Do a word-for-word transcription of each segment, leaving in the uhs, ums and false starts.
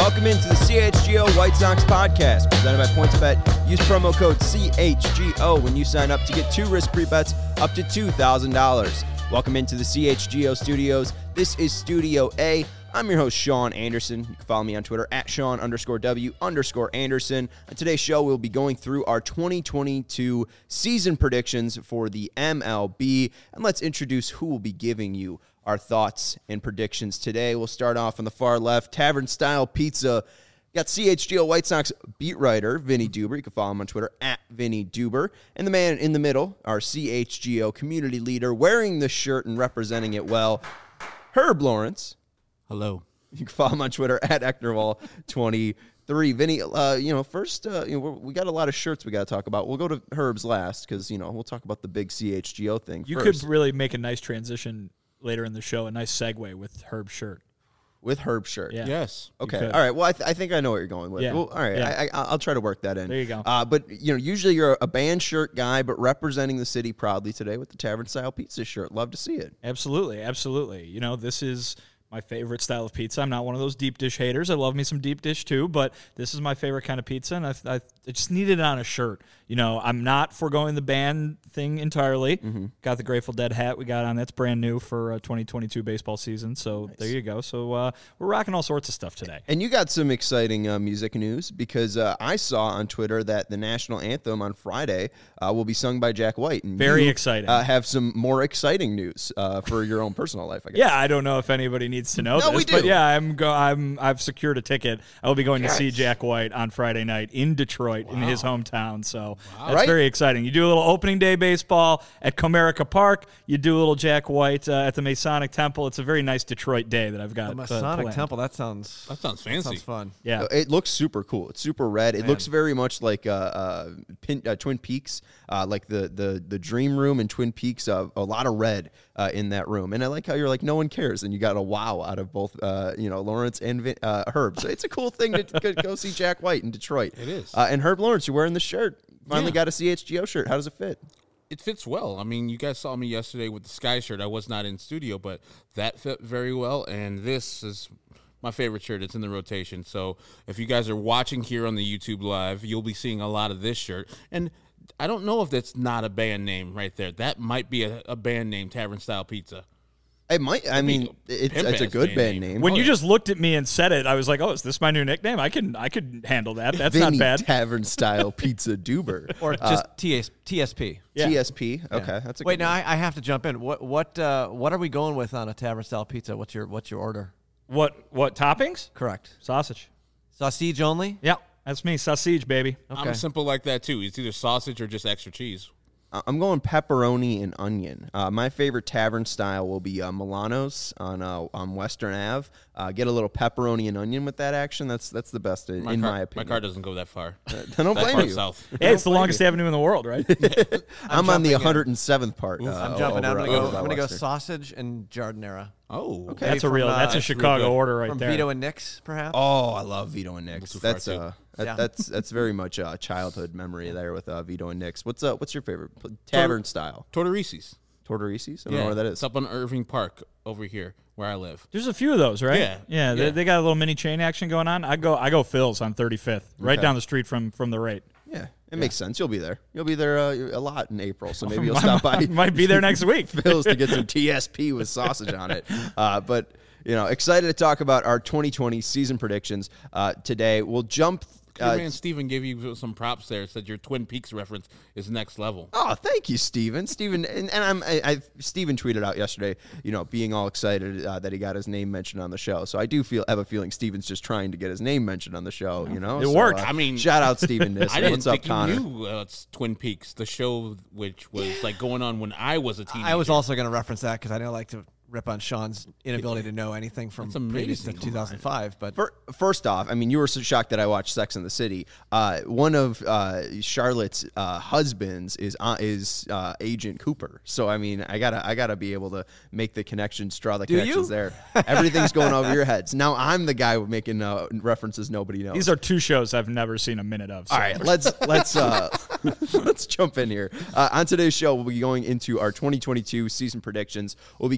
Welcome into the C H G O White Sox podcast, presented by PointsBet. Use promo code C H G O when you sign up to get two risk-free bets up to two thousand dollars. Welcome into the C H G O studios. This is Studio A. I'm your host, Sean Anderson. You can follow me on Twitter at Sean underscore W underscore Anderson. On today's show, we'll be going through our twenty twenty-two season predictions for the M L B. And let's introduce who will be giving you our thoughts and predictions today. We'll start off on the far left, Tavern Style Pizza. Got C H G O White Sox beat writer, Vinny Duber. You can follow him on Twitter at Vinny Duber. And the man in the middle, our C H G O community leader, wearing the shirt and representing it well, Herb Lawrence. Hello. You can follow him on Twitter at Ectorwall twenty-three. Vinny, uh, you know, first, uh, you know, we're, we got a lot of shirts we got to talk about. We'll go to Herb's last because, you know, we'll talk about the big C H G O thing You first. could really make a nice transition later in the show, a nice segue with Herb's shirt. With Herb's shirt. Yeah. Yes. Okay. All right. Well, I, th- I think I know what you're going with. Yeah. Well, all right. Yeah. I, I, I'll try to work that in. There you go. Uh, but, you know, usually you're a band shirt guy, but representing the city proudly today with the Tavern Style Pizza shirt. Love to see it. Absolutely. Absolutely. You know, this is my favorite style of pizza. I'm not one of those deep dish haters. I love me some deep dish too, but this is my favorite kind of pizza, and I, I, I just needed it on a shirt. You know, I'm not foregoing the band thing entirely. Mm-hmm. Got the Grateful Dead hat we got on. That's brand new for uh, twenty twenty-two baseball season, so nice. There you go. So uh, we're rocking all sorts of stuff today. And you got some exciting uh, music news because uh, I saw on Twitter that the national anthem on Friday uh, will be sung by Jack White. And Very you, exciting. Uh, have some more exciting news uh, for your own personal life, I guess. Yeah, I don't know if anybody needs to know no, this, we do. but yeah, I'm go. I'm I've secured a ticket. I will be going yes. to see Jack White on Friday night in Detroit, wow. in his hometown. So wow. that's right. very exciting. You do a little opening day baseball at Comerica Park. You do a little Jack White uh, at the Masonic Temple. It's a very nice Detroit day that I've got. The Masonic uh, Temple. That sounds that sounds fancy. That sounds fun. Yeah, it looks super cool. It's super red. It Man. looks very much like uh, uh, Pin, uh, Twin Peaks, uh, like the the the Dream Room in Twin Peaks. Uh, a lot of red uh, in that room, and I like how you're like no one cares, and you got a wow out of both. Uh, you know, Lawrence and Vin, uh, Herb. So it's a cool thing to go see Jack White in Detroit. It is. Uh, and Herb Lawrence, you're wearing the shirt. Finally yeah. got a C H G O shirt. How does it fit? It fits well. I mean, you guys saw me yesterday with the Sky shirt. I was not in studio, but that fit very well. And this is my favorite shirt. It's in the rotation. So if you guys are watching here on the YouTube Live, you'll be seeing a lot of this shirt. And I don't know if that's not a band name right there. That might be a, a band name, Tavern Style Pizza. It might. I mean, it's, it's a good band name. When oh, you yeah. just looked at me and said it, I was like, "Oh, is this my new nickname? I can, I could handle that. That's Vinny not bad." Tavern Style Pizza Duber, or just uh, T S P. Yeah. T S P. Okay, yeah. that's a wait. good Now one. I, I have to jump in. What what uh, what are we going with on a Tavern Style Pizza? What's your what's your order? What what toppings? Correct. Sausage. Sausage only. Yeah, that's me. Sausage, baby. Okay. I'm simple like that too. It's either sausage or just extra cheese. I'm going pepperoni and onion. Uh, my favorite tavern style will be uh, Milano's on uh, on Western Ave. Uh, get a little pepperoni and onion with that action. That's that's the best in my, in car, my opinion. My car doesn't go that far. Uh, I don't that blame far you. South. Hey, it's the longest you. avenue in the world, right? I'm, I'm on the one hundred seventh part. Uh, I'm jumping. over, I'm gonna go. over I'm gonna go Western. sausage and jardinera. Oh, okay. That's from, a real. Uh, that's a Chicago order right from there. Vito and Nick's, perhaps. Oh, I love Vito and Nick's. That's That's uh, that, yeah. that's that's very much a childhood memory there with uh, Vito and Nick's. What's uh, what's your favorite tavern Tor- style? Tortorisi's. Tortorisi's? I don't yeah, know where that is. It's up on Irving Park over here where I live. There's a few of those, right? Yeah, yeah. They, yeah. they got a little mini chain action going on. I go, I go Phil's on thirty-fifth, right Okay. down the street from from the rate. Yeah, it yeah. makes sense. You'll be there. You'll be there uh, a lot in April, so maybe you'll stop by. Might be there next week. Phil's to get some T S P with sausage on it. Uh, but, you know, excited to talk about our twenty twenty season predictions uh, today. We'll jump. Your Uh, man Steven gave you some props there. Said your Twin Peaks reference is next level. Oh, thank you, Steven. Steven, and, and I'm, I, I, Steven tweeted out yesterday, you know, being all excited uh, that he got his name mentioned on the show. So I do feel have a feeling Steven's just trying to get his name mentioned on the show. You know, It so, worked. Uh, I mean, shout out Steven Nissen. I didn't What's up, think Connor? you knew uh, it's Twin Peaks, the show which was like going on when I was a teenager. I was also going to reference that because I don't like to rip on Sean's inability to know anything from previous to two thousand five. But first off, I mean, you were so shocked that I watched Sex and the City. Uh, one of uh, Charlotte's uh, husbands is uh, is uh, Agent Cooper. So I mean, I gotta I gotta be able to make the connections, draw the Do connections you? there. Everything's going over your heads. Now I'm the guy making uh, references nobody knows. These are two shows I've never seen a minute of. So. All right, let's let's uh, let's jump in here. Uh, on today's show, we'll be going into our twenty twenty-two season predictions. We'll be going through the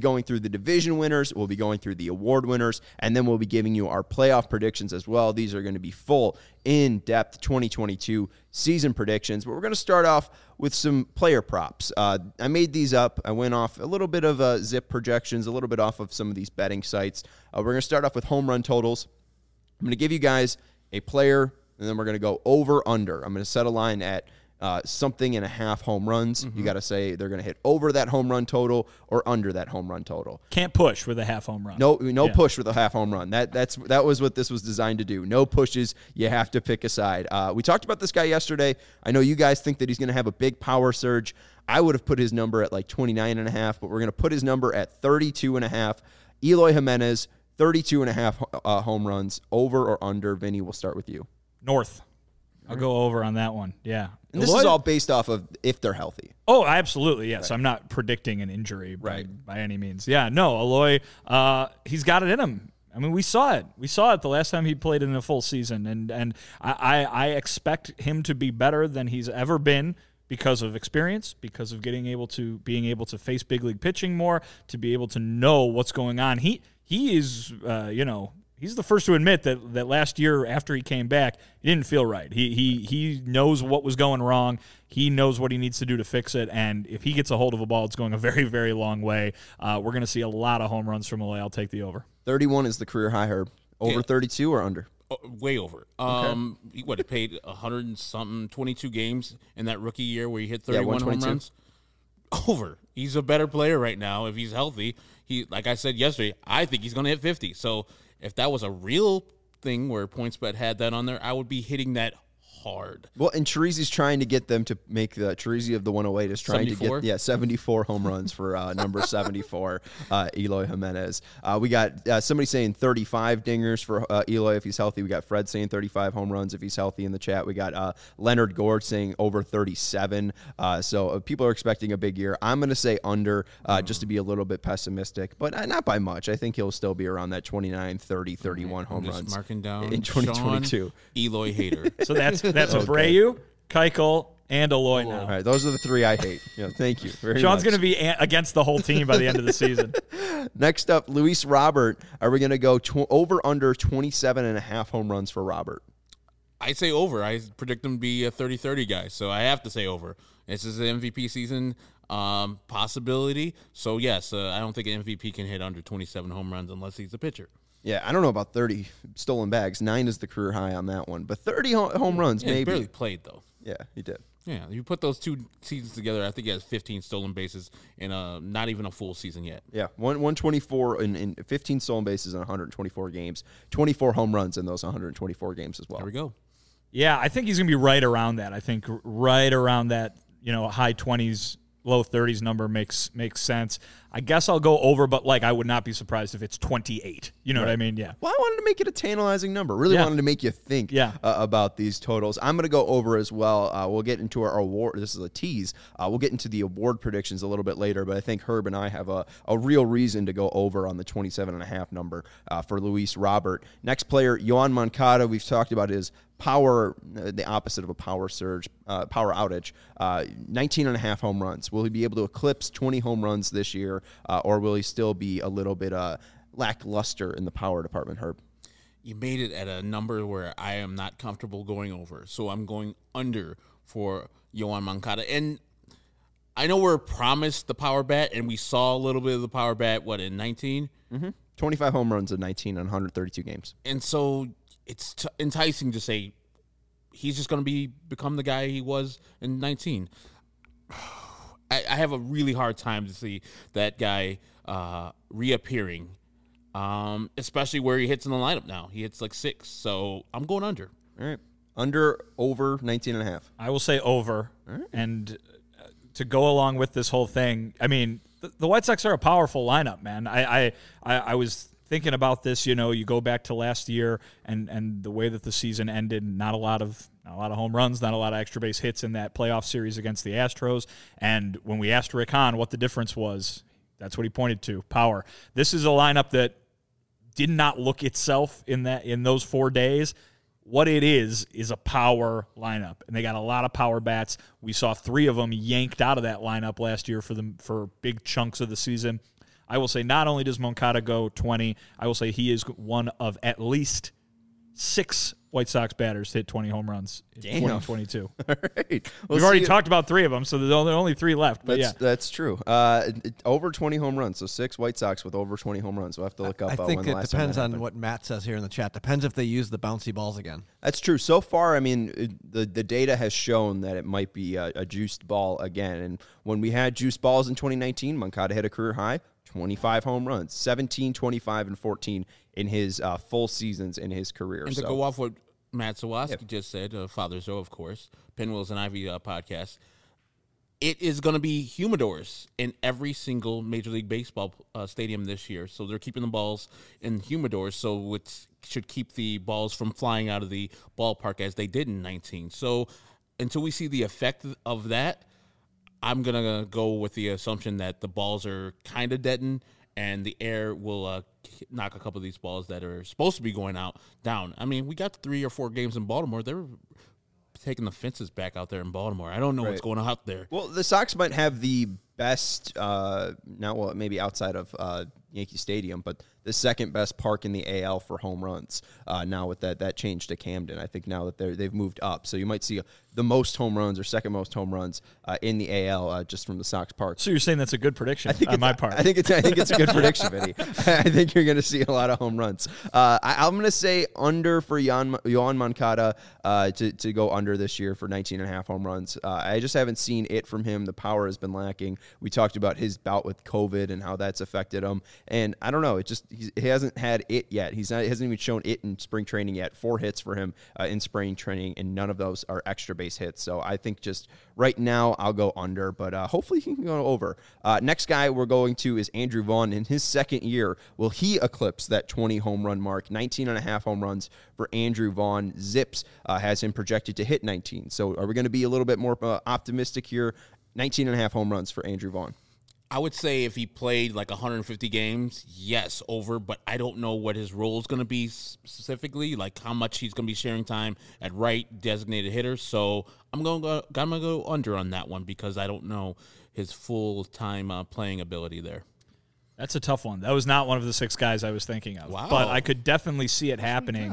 the division winners. We'll be going through the award winners, and then we'll be giving you our playoff predictions as well. These are going to be full, in-depth twenty twenty-two season predictions, but we're going to start off with some player props. Uh, I made these up. I went off a little bit of uh, zip projections, a little bit off of some of these betting sites. Uh, we're going to start off with home run totals. I'm going to give you guys a player, and then we're going to go over, under. I'm going to set a line at uh, something and a half home runs. Mm-hmm. You got to say they're going to hit over that home run total or under that home run total. Can't push with a half home run. No, no yeah. push with a half home run. That that's that was what this was designed to do. No pushes. You have to pick a side. Uh, we talked about this guy yesterday. I know you guys think that he's going to have a big power surge. I would have put his number at like twenty-nine and a half, but we're going to put his number at thirty-two and a half. Eloy Jimenez, thirty-two and a half uh, home runs, over or under. Vinny, we'll start with you. North. I'll go over on that one. Yeah. And this Eloy? is all based off of if they're healthy. Oh, absolutely, yes. Right. I'm not predicting an injury by, right. by any means. Yeah, no, Eloy, uh, he's got it in him. I mean, we saw it. We saw it the last time he played in a full season, and and I, I, I expect him to be better than he's ever been because of experience, because of getting able to being able to face big league pitching more, to be able to know what's going on. He he is, uh, you know. He's the first to admit that, that last year after he came back, he didn't feel right. He he he knows what was going wrong. He knows what he needs to do to fix it. And if he gets a hold of a ball, it's going a very, very long way. Uh, we're going to see a lot of home runs from Eloy. I'll take the over. thirty-one is the career high, Herb. Over yeah. thirty-two or under? Oh, way over. Okay. Um, he, what, he played one hundred and something, twenty-two games in that rookie year where he hit thirty-one yeah, home runs? Over. He's a better player right now if he's healthy. He, like I said yesterday, I think he's going to hit fifty. So if that was a real thing where PointsBet had that on there, I would be hitting that hard. Well, and Chirizi's trying to get them to make the Chirizi of the one oh eight is trying seventy-four? To get yeah seventy-four home runs for uh, number seventy-four, uh, Eloy Jimenez. Uh, we got uh, somebody saying thirty-five dingers for uh, Eloy if he's healthy. We got Fred saying thirty-five home runs if he's healthy in the chat. We got uh, Leonard Gord saying over thirty-seven. Uh, so uh, people are expecting a big year. I'm going to say under uh, mm. just to be a little bit pessimistic, but uh, not by much. I think he'll still be around that twenty-nine, thirty, thirty-one right. home I'm just runs marking down in twenty twenty-two. Sean Eloy hater. So that's that's okay. Abreu, Keuchel, and Eloy now. All right, those are the three I hate. Yeah, thank you very Sean's much. going to be a- against the whole team by the end of the season. Next up, Luis Robert. Are we going to go tw- over under twenty-seven and a half home runs for Robert? I say over. I predict him to be a thirty thirty guy, so I have to say over. This is an M V P season um, possibility. So, yes, uh, I don't think an M V P can hit under twenty-seven home runs unless he's a pitcher. Yeah, I don't know about thirty stolen bags. Nine is the career high on that one. But thirty ho- home runs, yeah, maybe. He barely played, though. Yeah, he did. Yeah, you put those two seasons together, I think he has fifteen stolen bases in a, not even a full season yet. Yeah, one, one twenty-four in, in fifteen stolen bases in one hundred twenty-four games, twenty-four home runs in those one hundred twenty-four games as well. There we go. Yeah, I think he's going to be right around that. I think right around that, you know, high twenties, low thirties number makes makes sense. I guess I'll go over, but like I would not be surprised if it's twenty-eight. You know right. what I mean? Yeah. Well, I wanted to make it a tantalizing number. Really yeah. wanted to make you think yeah. uh, about these totals. I'm going to go over as well. Uh, we'll get into our award. This is a tease. Uh, we'll get into the award predictions a little bit later, but I think Herb and I have a, a real reason to go over on the twenty-seven and a half number uh, for Luis Robert. Next player, Yoan Moncada. We've talked about his power, uh, the opposite of a power surge, uh, power outage, uh, nineteen and a half home runs. Will he be able to eclipse twenty home runs this year, uh, or will he still be a little bit uh, lackluster in the power department, Herb? You made it at a number where I am not comfortable going over, so I'm going under for Yoan Moncada. And I know we're promised the power bat, and we saw a little bit of the power bat, what, in nineteen? Mm-hmm. twenty-five home runs in nineteen on one hundred thirty-two games. And so it's t- enticing to say he's just going to be become the guy he was in nineteen. I, I have a really hard time to see that guy uh, reappearing, um, especially where he hits in the lineup now. He hits like six, so I'm going under. All right. Under, over, nineteen and a half. I will say over. Right. And uh, to go along with this whole thing, I mean, the, the White Sox are a powerful lineup, man. I, I, I, I was thinking about this, you know, you go back to last year and, and the way that the season ended, not a lot of not a lot of home runs, not a lot of extra base hits in that playoff series against the Astros. And when we asked Rick Hahn what the difference was, that's what he pointed to, power. This is a lineup that did not look itself in that in those four days. What it is is a power lineup, and they got a lot of power bats. We saw three of them yanked out of that lineup last year for them for big chunks of the season. I will say not only does Moncada go twenty, I will say he is one of at least six White Sox batters to hit twenty home runs in twenty twenty-two. All right. We've already talked about three of them, so there's only, only three left. But that's, yeah. That's true. Uh, it, over twenty home runs. So six White Sox with over twenty home runs. We'll have to look up I uh, think when the it last depends time on happened. what Matt says here in the chat. Depends if they use the bouncy balls again. That's true. So far, I mean, it, the, the data has shown that it might be a, a juiced ball again. And when we had juiced balls in twenty nineteen, Moncada hit a career high, twenty-five home runs, seventeen, twenty-five, and fourteen in his uh, full seasons in his career. And so. to go off what Matt Zawaski Yep. just said, uh, Father Zoe, of course, Pinwheels and Ivy uh, podcast, it is going to be humidors in every single Major League Baseball uh, stadium this year. So they're keeping the balls in humidors, so it should keep the balls from flying out of the ballpark as they did in nineteen. So until we see the effect of that, I'm going to go with the assumption that the balls are kind of deadened and the air will uh, knock a couple of these balls that are supposed to be going out down. I mean, we got three or four games in Baltimore. They're taking the fences back out there in Baltimore. I don't know Right. what's going on out there. Well, the Sox might have the best, uh, now well, maybe outside of uh, Yankee Stadium, but the second best park in the A L for home runs. Uh, now with that that change to Camden, I think now that they're they've moved up, so you might see the most home runs or second most home runs uh, in the A L uh, just from the Sox park. So you're saying that's a good prediction I think on it's, my part. I think it's I think it's a good prediction, Vinny. I think you're going to see a lot of home runs. Uh, I, I'm going to say under for Yoan, Yoan Moncada uh, to to go under this year for nineteen and a half home runs. Uh, I just haven't seen it from him. The power has been lacking. We talked about his bout with COVID and how that's affected him, and I don't know. It just he's, he hasn't had it yet. He's not he hasn't even shown it in spring training yet. Four hits for him uh, in spring training, and none of those are extra base hits. So I think just right now I'll go under, but uh, hopefully he can go over. Uh, next guy we're going to is Andrew Vaughn. In his second year, will he eclipse that twenty home run mark? nineteen and a half home runs for Andrew Vaughn. Zips uh, has him projected to hit nineteen. So are we going to be a little bit more uh, optimistic here? nineteen and a half home runs for Andrew Vaughn. I would say if he played like one hundred fifty games, yes, over, but I don't know what his role is going to be specifically, like how much he's going to be sharing time at right designated hitter. So I'm going to go, I'm going to go under on that one because I don't know his full-time uh, playing ability there. That's a tough one. That was not one of the six guys I was thinking of. Wow. But I could definitely see it happening.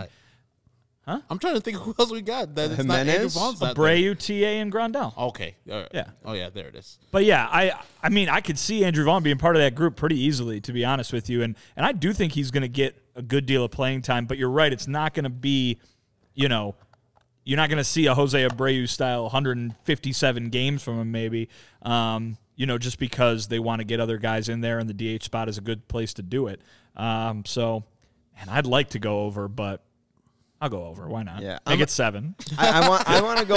Huh? I'm trying to think who else we got. That it's not Andrew Jimenez? Vaughn's not there. Abreu, T A, and Grandal. Okay. All right. Yeah. Oh, yeah, there it is. But yeah, I I mean, I could see Andrew Vaughn being part of that group pretty easily, to be honest with you. And and I do think he's going to get a good deal of playing time. But you're right, it's not going to be, you know, you're not going to see a Jose Abreu style one hundred fifty-seven games from him, maybe. Um, you know, just because they want to get other guys in there, and the D H spot is a good place to do it. Um, so, and I'd like to go over, but I'll go over. Why not? Yeah, make I'm, it seven. I, I want. I want to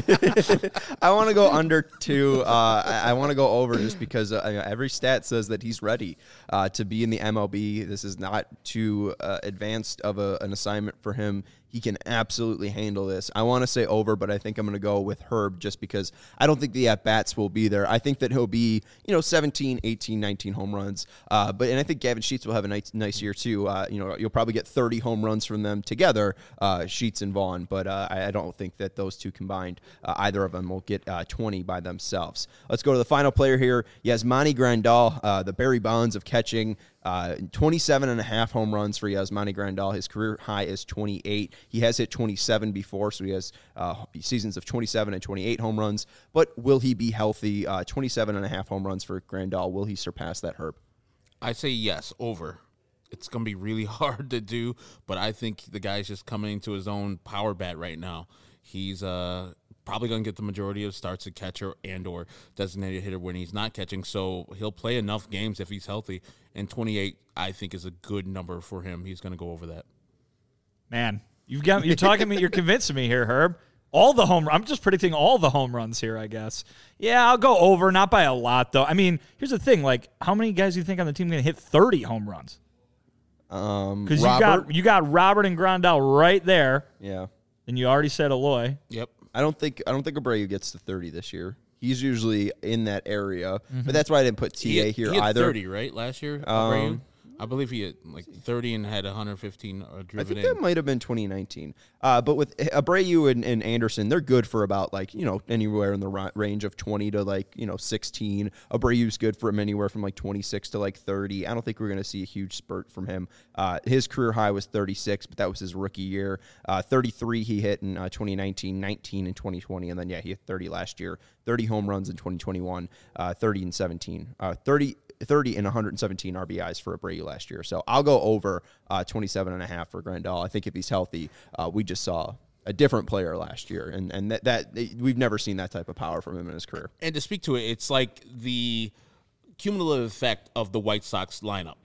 go. I want to go under two. Uh, I, I want to go over just because uh, every stat says that he's ready uh, to be in the M L B. This is not too uh, advanced of a, an assignment for him. He can absolutely handle this. I want to say over, but I think I'm going to go with Herb just because I don't think the at-bats will be there. I think that he'll be, you know, seventeen, eighteen, nineteen home runs. Uh, but and I think Gavin Sheets will have a nice, nice year too. Uh, you know, you'll probably get thirty home runs from them together, uh, Sheets and Vaughn. But uh, I, I don't think that those two combined, uh, either of them will get uh, twenty by themselves. Let's go to the final player here. Yasmani Grandal, uh, the Barry Bonds of catching. Uh, twenty-seven and a half home runs for Yasmani Grandal. His career high is twenty-eight. He has hit twenty-seven before, so he has uh, seasons of twenty-seven and twenty-eight home runs. But will he be healthy? Uh, twenty-seven and a half home runs for Grandal. Will he surpass that, Herb? I say yes, over. It's going to be really hard to do, but I think the guy's just coming into his own power bat right now. He's uh, probably going to get the majority of starts at catcher and or designated hitter when he's not catching, so he'll play enough games if he's healthy. And twenty-eight, I think, is a good number for him. He's going to go over that. Man, you've got you're talking me. You're convincing me here, Herb. All the home. I'm just predicting all the home runs here, I guess. Yeah, I'll go over, not by a lot though. I mean, here's the thing: like, how many guys do you think on the team are going to hit thirty home runs? Um, Because you got you got Robert and Grandal right there. Yeah. And you already said Eloy. Yep. I don't think I don't think Abreu gets to thirty this year. He's usually in that area, mm-hmm. but that's why I didn't put T A he, here he had either. thirty, right, last year? Um, I believe he had like thirty and had one hundred fifteen uh, driven I think in. that might have been twenty nineteen. Uh, but with Abreu and, and Anderson, they're good for about like, you know, anywhere in the ra- range of twenty to like, you know, sixteen. Abreu's good for him anywhere from like twenty-six to like thirty. I don't think we're going to see a huge spurt from him. Uh, his career high was thirty-six, but that was his rookie year. Uh, thirty-three he hit in uh, twenty nineteen, nineteen in twenty twenty, and then, yeah, he hit thirty last year. thirty home runs in twenty twenty-one, uh, thirty and seventeen. Uh, thirty, thirty and one hundred seventeen R B Is for Abreu last year. So I'll go over uh, twenty-seven and a half for Grandal. I think if he's healthy, uh, we just saw a different player last year, and and that, that we've never seen that type of power from him in his career. And to speak to it, it's like the cumulative effect of the White Sox lineup.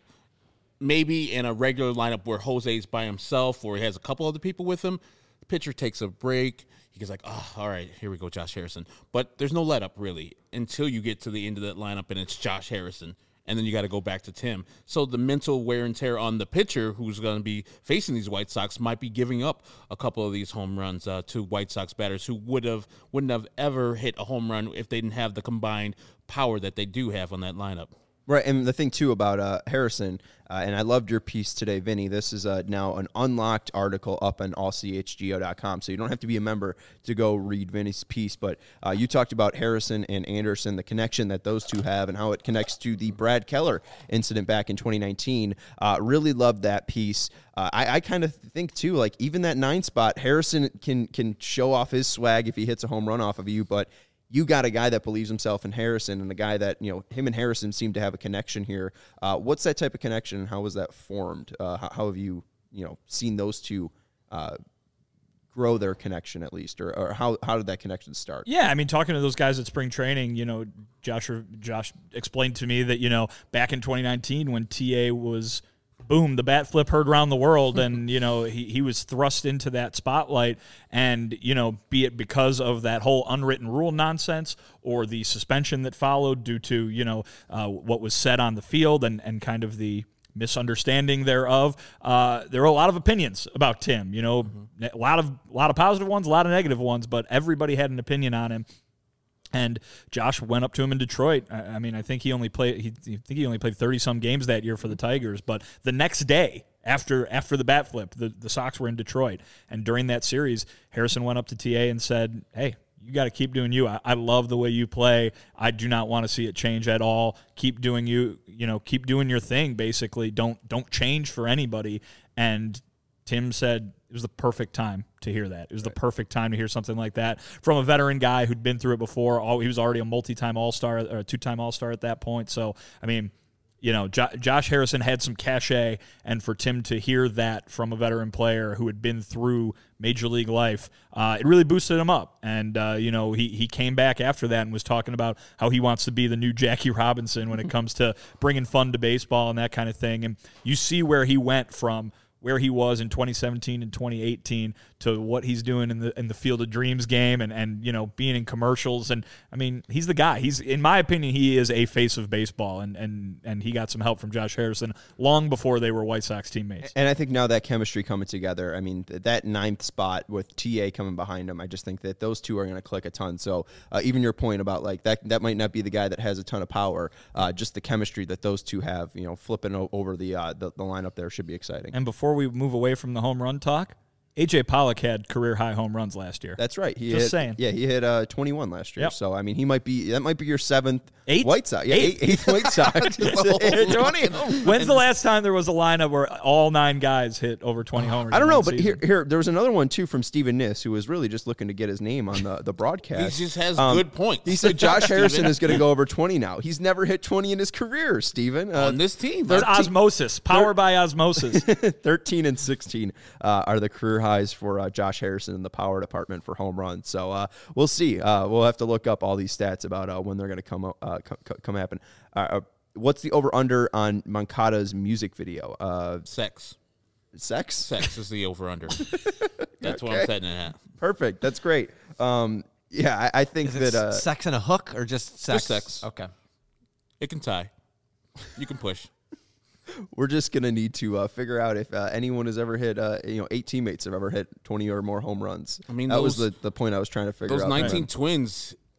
Maybe in a regular lineup where Jose's by himself or he has a couple other people with him, the pitcher takes a break. He gets like, oh, all right, here we go, Josh Harrison. But there's no let up, really, until you get to the end of that lineup and it's Josh Harrison. And then you got to go back to Tim. So the mental wear and tear on the pitcher who's going to be facing these White Sox might be giving up a couple of these home runs uh, to White Sox batters who would have, wouldn't have ever hit a home run if they didn't have the combined power that they do have on that lineup. Right, and the thing, too, about uh, Harrison, uh, and I loved your piece today, Vinny. This is uh, now an unlocked article up on all c h g o dot com, so you don't have to be a member to go read Vinny's piece, but uh, you talked about Harrison and Anderson, the connection that those two have, and how it connects to the Brad Keller incident back in twenty nineteen. Uh, really loved that piece. Uh, I, I kind of think, too, like, even that nine spot, Harrison can can show off his swag if he hits a home run off of you, but you got a guy that believes himself in Harrison and a guy that, you know, him and Harrison seem to have a connection here. Uh, what's that type of connection and how was that formed? Uh, how, how have you, you know, seen those two uh, grow their connection at least, or, or how, how did that connection start? Yeah, I mean, talking to those guys at spring training, you know, Josh, Josh explained to me that, you know, back in twenty nineteen when T A was – boom, the bat flip heard around the world, and, you know, he, he was thrust into that spotlight, and, you know, be it because of that whole unwritten rule nonsense or the suspension that followed due to, you know, uh, what was said on the field and, and kind of the misunderstanding thereof, uh, there were a lot of opinions about Tim, you know, mm-hmm. a lot of, a lot of positive ones, a lot of negative ones, but everybody had an opinion on him. And Josh went up to him in Detroit. I, I mean, I think he only played. He, I think he only played thirty some games that year for the Tigers. But the next day, after after the bat flip, the, the Sox were in Detroit, and during that series, Harrison went up to T A and said, "Hey, you got to keep doing you. I, I love the way you play. I do not want to see it change at all. Keep doing you. You know, keep doing your thing. Basically, don't don't change for anybody." And Tim said it was the perfect time to hear that. It was right. the perfect time to hear something like that from a veteran guy who'd been through it before. Oh, he was already a multi-time All-Star or a two-time All-Star at that point. So, I mean, you know, jo- Josh Harrison had some cachet, and for Tim to hear that from a veteran player who had been through Major League life, uh, it really boosted him up. And, uh, you know, he, he came back after that and was talking about how he wants to be the new Jackie Robinson when it comes to bringing fun to baseball and that kind of thing. And you see where he went from where he was in twenty seventeen and twenty eighteen to what he's doing in the in the Field of Dreams game and, and you know, being in commercials. And, I mean, he's the guy. He's, in my opinion, he is a face of baseball, and, and, and he got some help from Josh Harrison long before they were White Sox teammates. And I think now that chemistry coming together, I mean, that ninth spot with T A coming behind him, I just think that those two are going to click a ton. So uh, even your point about, like, that that might not be the guy that has a ton of power, uh, just the chemistry that those two have, you know, flipping o- over the, uh, the the lineup there should be exciting. And before we move away from the home run talk, A J Pollock had career-high home runs last year. That's right. He Just hit, saying. Yeah, he hit uh, twenty-one last year. Yep. So, I mean, he might be, that might be your seventh Eighth? White Sox. Yeah, Eighth. eighth, eighth White Sox. twenty. When's the last time there was a lineup where all nine guys hit over twenty homers? I don't in know, one but season? here, here, there was another one, too, from Steven Niss, who was really just looking to get his name on the, the broadcast. He just has Um, good points. He said Josh Harrison is going to go over twenty now. He's never hit twenty in his career, Steven. Uh, on this team. It's osmosis. Power by osmosis. thirteen and sixteen uh, are the career highs for uh, Josh Harrison in the power department for home runs. So uh, we'll see. Uh, we'll have to look up all these stats about uh, when they're going to come uh, come, come happen. Uh, what's the over under on Moncada's music video? Uh, Sex. Sex. Sex is the over under. That's what Okay. I'm setting it at. Perfect. That's great. Um, yeah, I, I think Is it that uh, sex and a hook or just sex? Just sex. Okay. It can tie. You can push. we're just gonna need to uh, figure out if uh, anyone has ever hit, uh, you know, eight teammates have ever hit twenty or more home runs. I mean, that was those- the, the point I was trying to figure Those out. nineteen Twins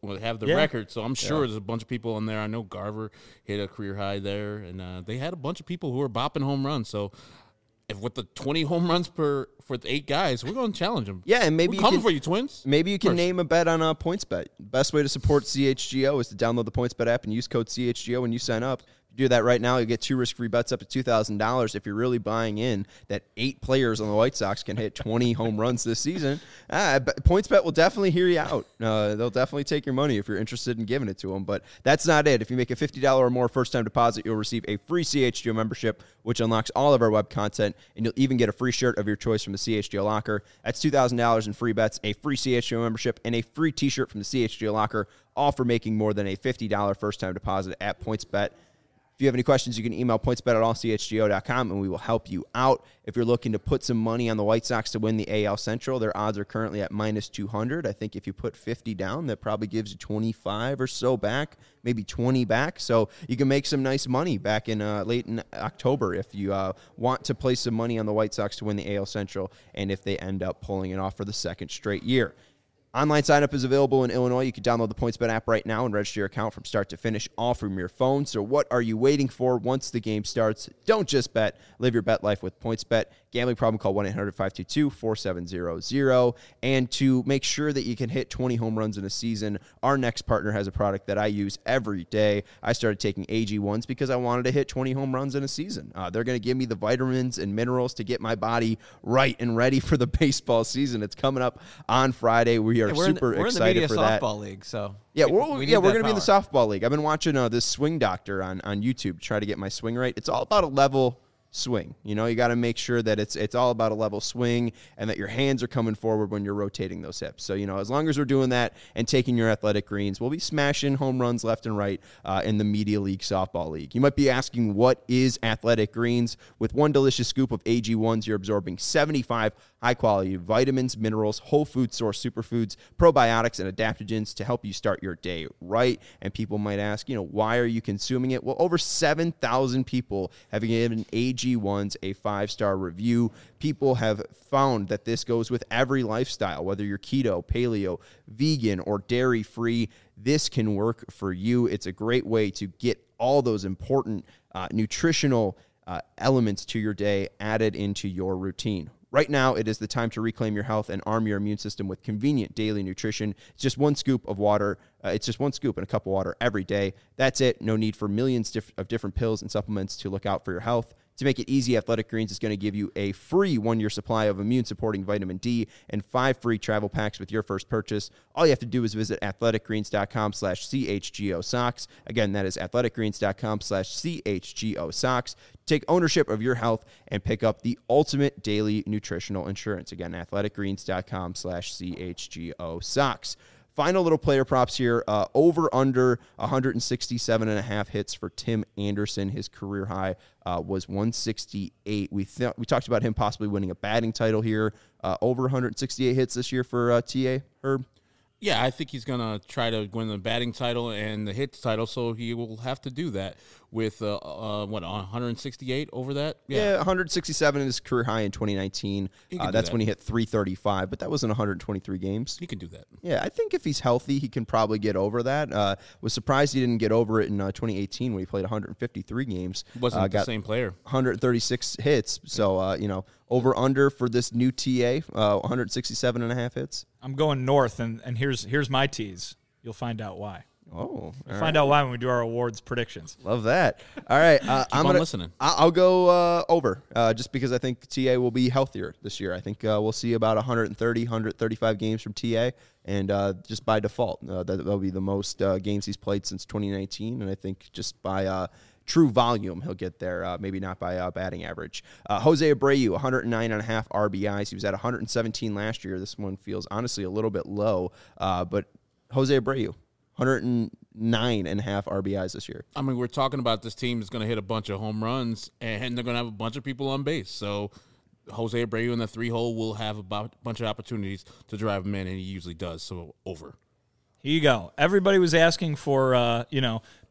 well, have the Yeah. record. So I'm sure Yeah. there's a bunch of people in there. I know Garver hit a career high there, and uh, they had a bunch of people who were bopping home runs. So if with the twenty home runs per for the eight guys, we're going to challenge them. Yeah, and maybe we're you coming can, for you, Twins. Maybe you can First. name a bet on a PointsBet. Best way to support C H G O is to download the PointsBet app and use code C H G O when you sign up. If you do that right now, you get two risk-free bets up to two thousand dollars. If you're really buying in that eight players on the White Sox can hit twenty home runs this season, ah, PointsBet will definitely hear you out. Uh, they'll definitely take your money if you're interested in giving it to them. But that's not it. If you make a fifty dollars or more first-time deposit, you'll receive a free C H G O membership, which unlocks all of our web content, and you'll even get a free shirt of your choice from the C H G O Locker. That's two thousand dollars in free bets, a free C H G O membership, and a free T-shirt from the C H G O Locker, all for making more than a fifty dollars first-time deposit at PointsBet. If you have any questions, you can email pointsbet at all c h g o dot com, and we will help you out. If you're looking to put some money on the White Sox to win the A L Central, their odds are currently at minus two hundred. I think if you put fifty down, that probably gives you twenty-five or so back, maybe twenty back. So you can make some nice money back in uh, late in October if you uh, want to place some money on the White Sox to win the A L Central, and if they end up pulling it off for the second straight year. Online sign-up is available in Illinois. You can download the PointsBet app right now and register your account from start to finish, all from your phone. So what are you waiting for once the game starts? Don't just bet. Live your bet life with PointsBet. Gambling problem, call one eight hundred five two two four seven zero zero. And to make sure that you can hit twenty home runs in a season, our next partner has a product that I use every day. I started taking A G ones because I wanted to hit twenty home runs in a season. Uh, they're going to give me the vitamins and minerals to get my body right and ready for the baseball season. It's coming up on Friday. We are Yeah, we're super in the, we're excited in the for media that. softball league, so Yeah, we, we're, we yeah, need we're that going to be in the power. softball league. I've been watching uh, this Swing Doctor on, on YouTube to try to get my swing right. It's all about a level swing. You know, you got to make sure that it's it's all about a level swing and that your hands are coming forward when you're rotating those hips. So, you know, as long as we're doing that and taking your athletic greens, we'll be smashing home runs left and right uh, in the Media League Softball League. You might be asking, what is Athletic Greens? With one delicious scoop of A G ones, you're absorbing seventy-five high-quality vitamins, minerals, whole food source superfoods, probiotics, and adaptogens to help you start your day right. And people might ask, you know, why are you consuming it? Well, over seven thousand people have given A G ones a five-star review. People have found that this goes with every lifestyle, whether you're keto, paleo, vegan, or dairy-free. This can work for you. It's a great way to get all those important uh, nutritional uh, elements to your day added into your routine. Right now, it is the time to reclaim your health and arm your immune system with convenient daily nutrition. It's just one scoop of water. Uh, it's just one scoop in a cup of water every day. That's it. No need for millions diff- of different pills and supplements to look out for your health. To make it easy, Athletic Greens is going to give you a free one-year supply of immune-supporting vitamin D and five free travel packs with your first purchase. All you have to do is visit athleticgreens.com slash CHGO socks. Again, that is athleticgreens.com slash CHGO socks. Take ownership of your health and pick up the ultimate daily nutritional insurance. Again, athleticgreens.com slash CHGO socks. Final little player props here. Uh, over under one sixty-seven and a half hits for Tim Anderson. His career high uh, was one sixty-eight. We th- we talked about him possibly winning a batting title here. Uh, over one sixty-eight hits this year for uh, T A, Herb. Yeah, I think he's going to try to win the batting title and the hits title, so he will have to do that with, uh, uh, what, one sixty-eight over that? Yeah, yeah one sixty-seven in his career high in twenty nineteen. Uh, that's that. when he hit three thirty-five, but that wasn't one hundred twenty-three games. He can do that. Yeah, I think if he's healthy, he can probably get over that. Uh, was surprised he didn't get over it in uh, twenty eighteen when he played one fifty-three games. Wasn't uh, the got same player. one thirty-six hits, so, uh, you know, over under for this new T A, uh, one sixty-seven and a half hits. I'm going north, and, and here's here's my tease. You'll find out why. Oh, We'll find right. out why when we do our awards predictions. Love that. All right, uh, Keep I'm on gonna, listening. I'll go uh, over, uh, just because I think T A will be healthier this year. I think uh, we'll see about one thirty, one thirty-five games from T A, and uh, just by default, uh, that will be the most uh, games he's played since twenty nineteen, and I think just by uh, true volume, he'll get there, uh, maybe not by uh, batting average. Uh, Jose Abreu, one oh nine and a half R B Is. He was at one seventeen last year. This one feels honestly a little bit low, uh, but Jose Abreu, one oh nine and a half R B Is this year. I mean, we're talking about this team is going to hit a bunch of home runs, and they're going to have a bunch of people on base. So Jose Abreu in the three hole will have a bunch of opportunities to drive him in, and he usually does. So over. Here you go. Everybody was asking for, uh, you know,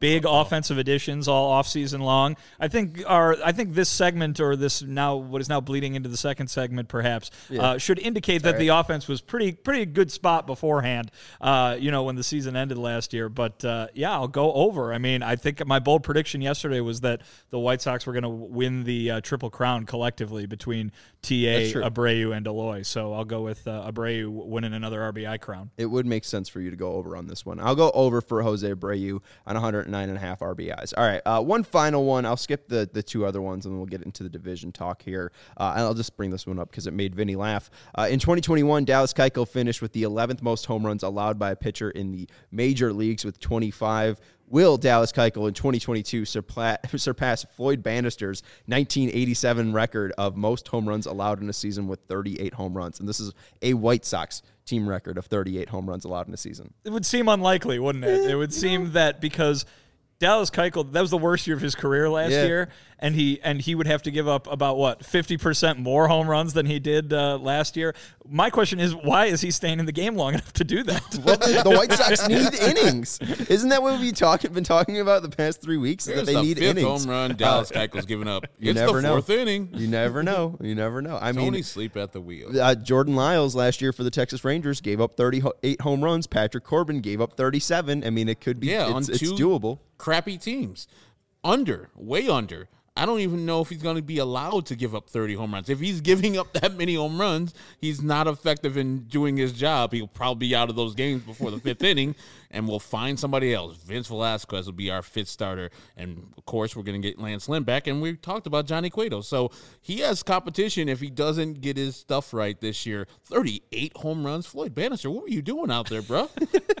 big oh. offensive additions all offseason long. I think our I think this segment or this now what is now bleeding into the second segment perhaps yeah. uh, should indicate that right. the offense was pretty pretty good spot beforehand. Uh, you know when the season ended last year, but uh, yeah, I'll go over. I mean, I think my bold prediction yesterday was that the White Sox were going to win the uh, Triple Crown collectively between T A, Abreu, and Eloy. So I'll go with uh, Abreu winning another R B I crown. It would make sense for you to go over on this one. I'll go over for Jose Abreu on one hundred nine and a half R B Is. All right, uh, one final one. I'll skip the, the two other ones, and then we'll get into the division talk here. Uh, and I'll just bring this one up because it made Vinny laugh. Uh, in twenty twenty-one, Dallas Keuchel finished with the eleventh most home runs allowed by a pitcher in the major leagues with twenty-five. Will Dallas Keuchel in twenty twenty-two surpla- surpass Floyd Bannister's nineteen eighty-seven record of most home runs allowed in a season with thirty-eight home runs? And this is a White Sox team record of thirty-eight home runs allowed in a season. It would seem unlikely, wouldn't it? It would seem that because Dallas Keuchel, that was the worst year of his career last yeah. year, and he and he would have to give up about, what, fifty percent more home runs than he did uh, last year. My question is, why is he staying in the game long enough to do that? Well, the, the White Sox need innings. Isn't that what we've talk, been talking about the past three weeks? Here's that they the need fifth innings. home run Dallas Keuchel's given up. You it's never the know. fourth inning. You never know. You never know. I Tony mean, sleep at the wheel. Uh, Jordan Lyles last year for the Texas Rangers gave up thirty-eight home runs. Patrick Corbin gave up thirty-seven. I mean, it could be. Yeah, it's, on it's two doable. Crappy teams. Under, way under. I don't even know if he's going to be allowed to give up thirty home runs. If he's giving up that many home runs, he's not effective in doing his job. He'll probably be out of those games before the fifth inning, and we'll find somebody else. Vince Velasquez will be our fifth starter, and, of course, we're going to get Lance Lynn back, and we talked about Johnny Cueto. So he has competition if he doesn't get his stuff right this year. thirty-eight home runs? Floyd Bannister, what were you doing out there, bro?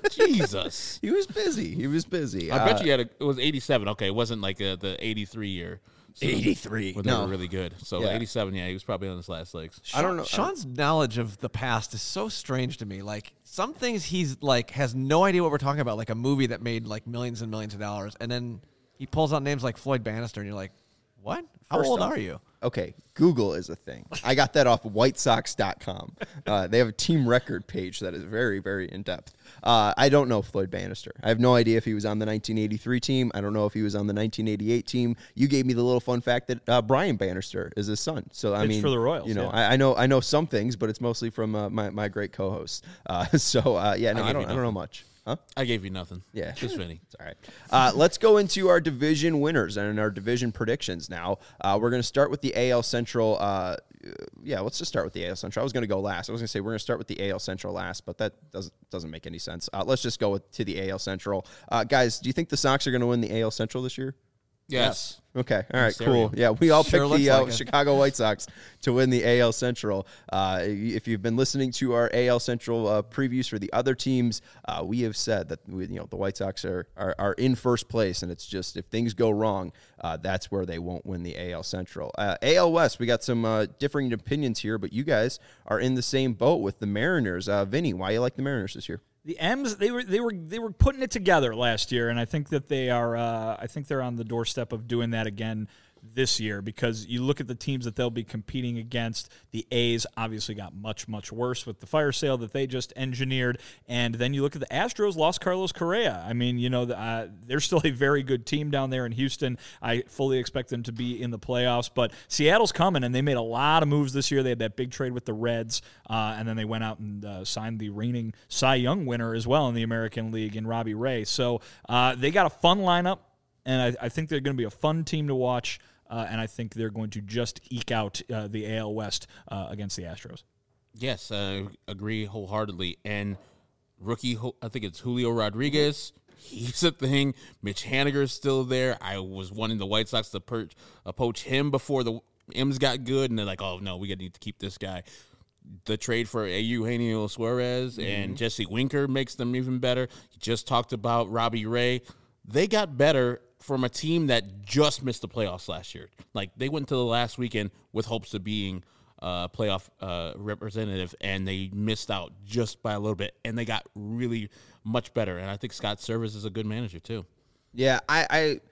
Jesus. He was busy. He was busy. I uh, bet you had a, it was eighty-seven. Okay, it wasn't like a, the eighty-three year. So eighty-three. When they no. were really good. So yeah. eighty-seven, yeah, he was probably on his last legs. Sean, I don't know. Sean's knowledge of the past is so strange to me. Like, some things he's, like, has no idea what we're talking about, like a movie that made, like, millions and millions of dollars, and then he pulls out names like Floyd Bannister, and you're like, what? How First old off, are you? Okay, Google is a thing. I got that off white sox dot com. Uh, they have a team record page that is very, very in-depth. Uh, I don't know Floyd Bannister. I have no idea if he was on the nineteen eighty-three team. I don't know if he was on the nineteen eighty-eight team. You gave me the little fun fact that uh, Brian Bannister is his son. So I it's mean, for the Royals. You know, yeah. I, I know I know some things, but it's mostly from uh, my my great co-host. Uh, so uh, yeah, no, I, I don't I don't know much. Huh? I gave you nothing. Yeah. Just Vinny. It's all right. Uh, let's go into our division winners and our division predictions now. Uh, we're going to start with the A L Central. Uh, yeah, let's just start with the A L Central. I was going to go last. I was going to say we're going to start with the A L Central last, but that doesn't doesn't make any sense. Uh, let's just go with, to the A L Central. Uh, guys, do you think the Sox are going to win the A L Central this year? Yes. Okay. All right. Cool. Yeah, we all Sure picked the uh, like Chicago White Sox to win the A L Central. Uh, if you've been listening to our A L Central uh, previews for the other teams, uh, we have said that we, you know the White Sox are, are are in first place, and it's just if things go wrong, uh, that's where they won't win the A L Central. Uh, A L West, we got some uh, differing opinions here, but you guys are in the same boat with the Mariners. Uh, Vinny, why you like the Mariners this year? The M's they were they were they were putting it together last year, and I think that they are uh, I think they're on the doorstep of doing that again this year, because you look at the teams that they'll be competing against. The A's obviously got much, much worse with the fire sale that they just engineered. And then you look at the Astros, lost Carlos Correa. I mean, you know, uh, they're still a very good team down there in Houston. I fully expect them to be in the playoffs. But Seattle's coming, and they made a lot of moves this year. They had that big trade with the Reds, uh, and then they went out and uh, signed the reigning Cy Young winner as well in the American League in Robbie Ray. So uh, they got a fun lineup, and I, I think they're going to be a fun team to watch. Uh, and I think they're going to just eke out uh, the A L West uh, against the Astros. Yes, I uh, agree wholeheartedly. And rookie, I think it's Julio Rodriguez. He's a thing. Mitch Haniger's still there. I was wanting the White Sox to perch, uh, poach him before the M's got good, and they're like, oh, no, we got to need to keep this guy. The trade for Eugenio Suarez mm-hmm. and Jesse Winker makes them even better. You just talked about Robbie Ray. They got better from a team that just missed the playoffs last year. Like, they went to the last weekend with hopes of being uh, playoff uh, representative, and they missed out just by a little bit, and they got really much better. And I think Scott Servais is a good manager, too. Yeah, I... I...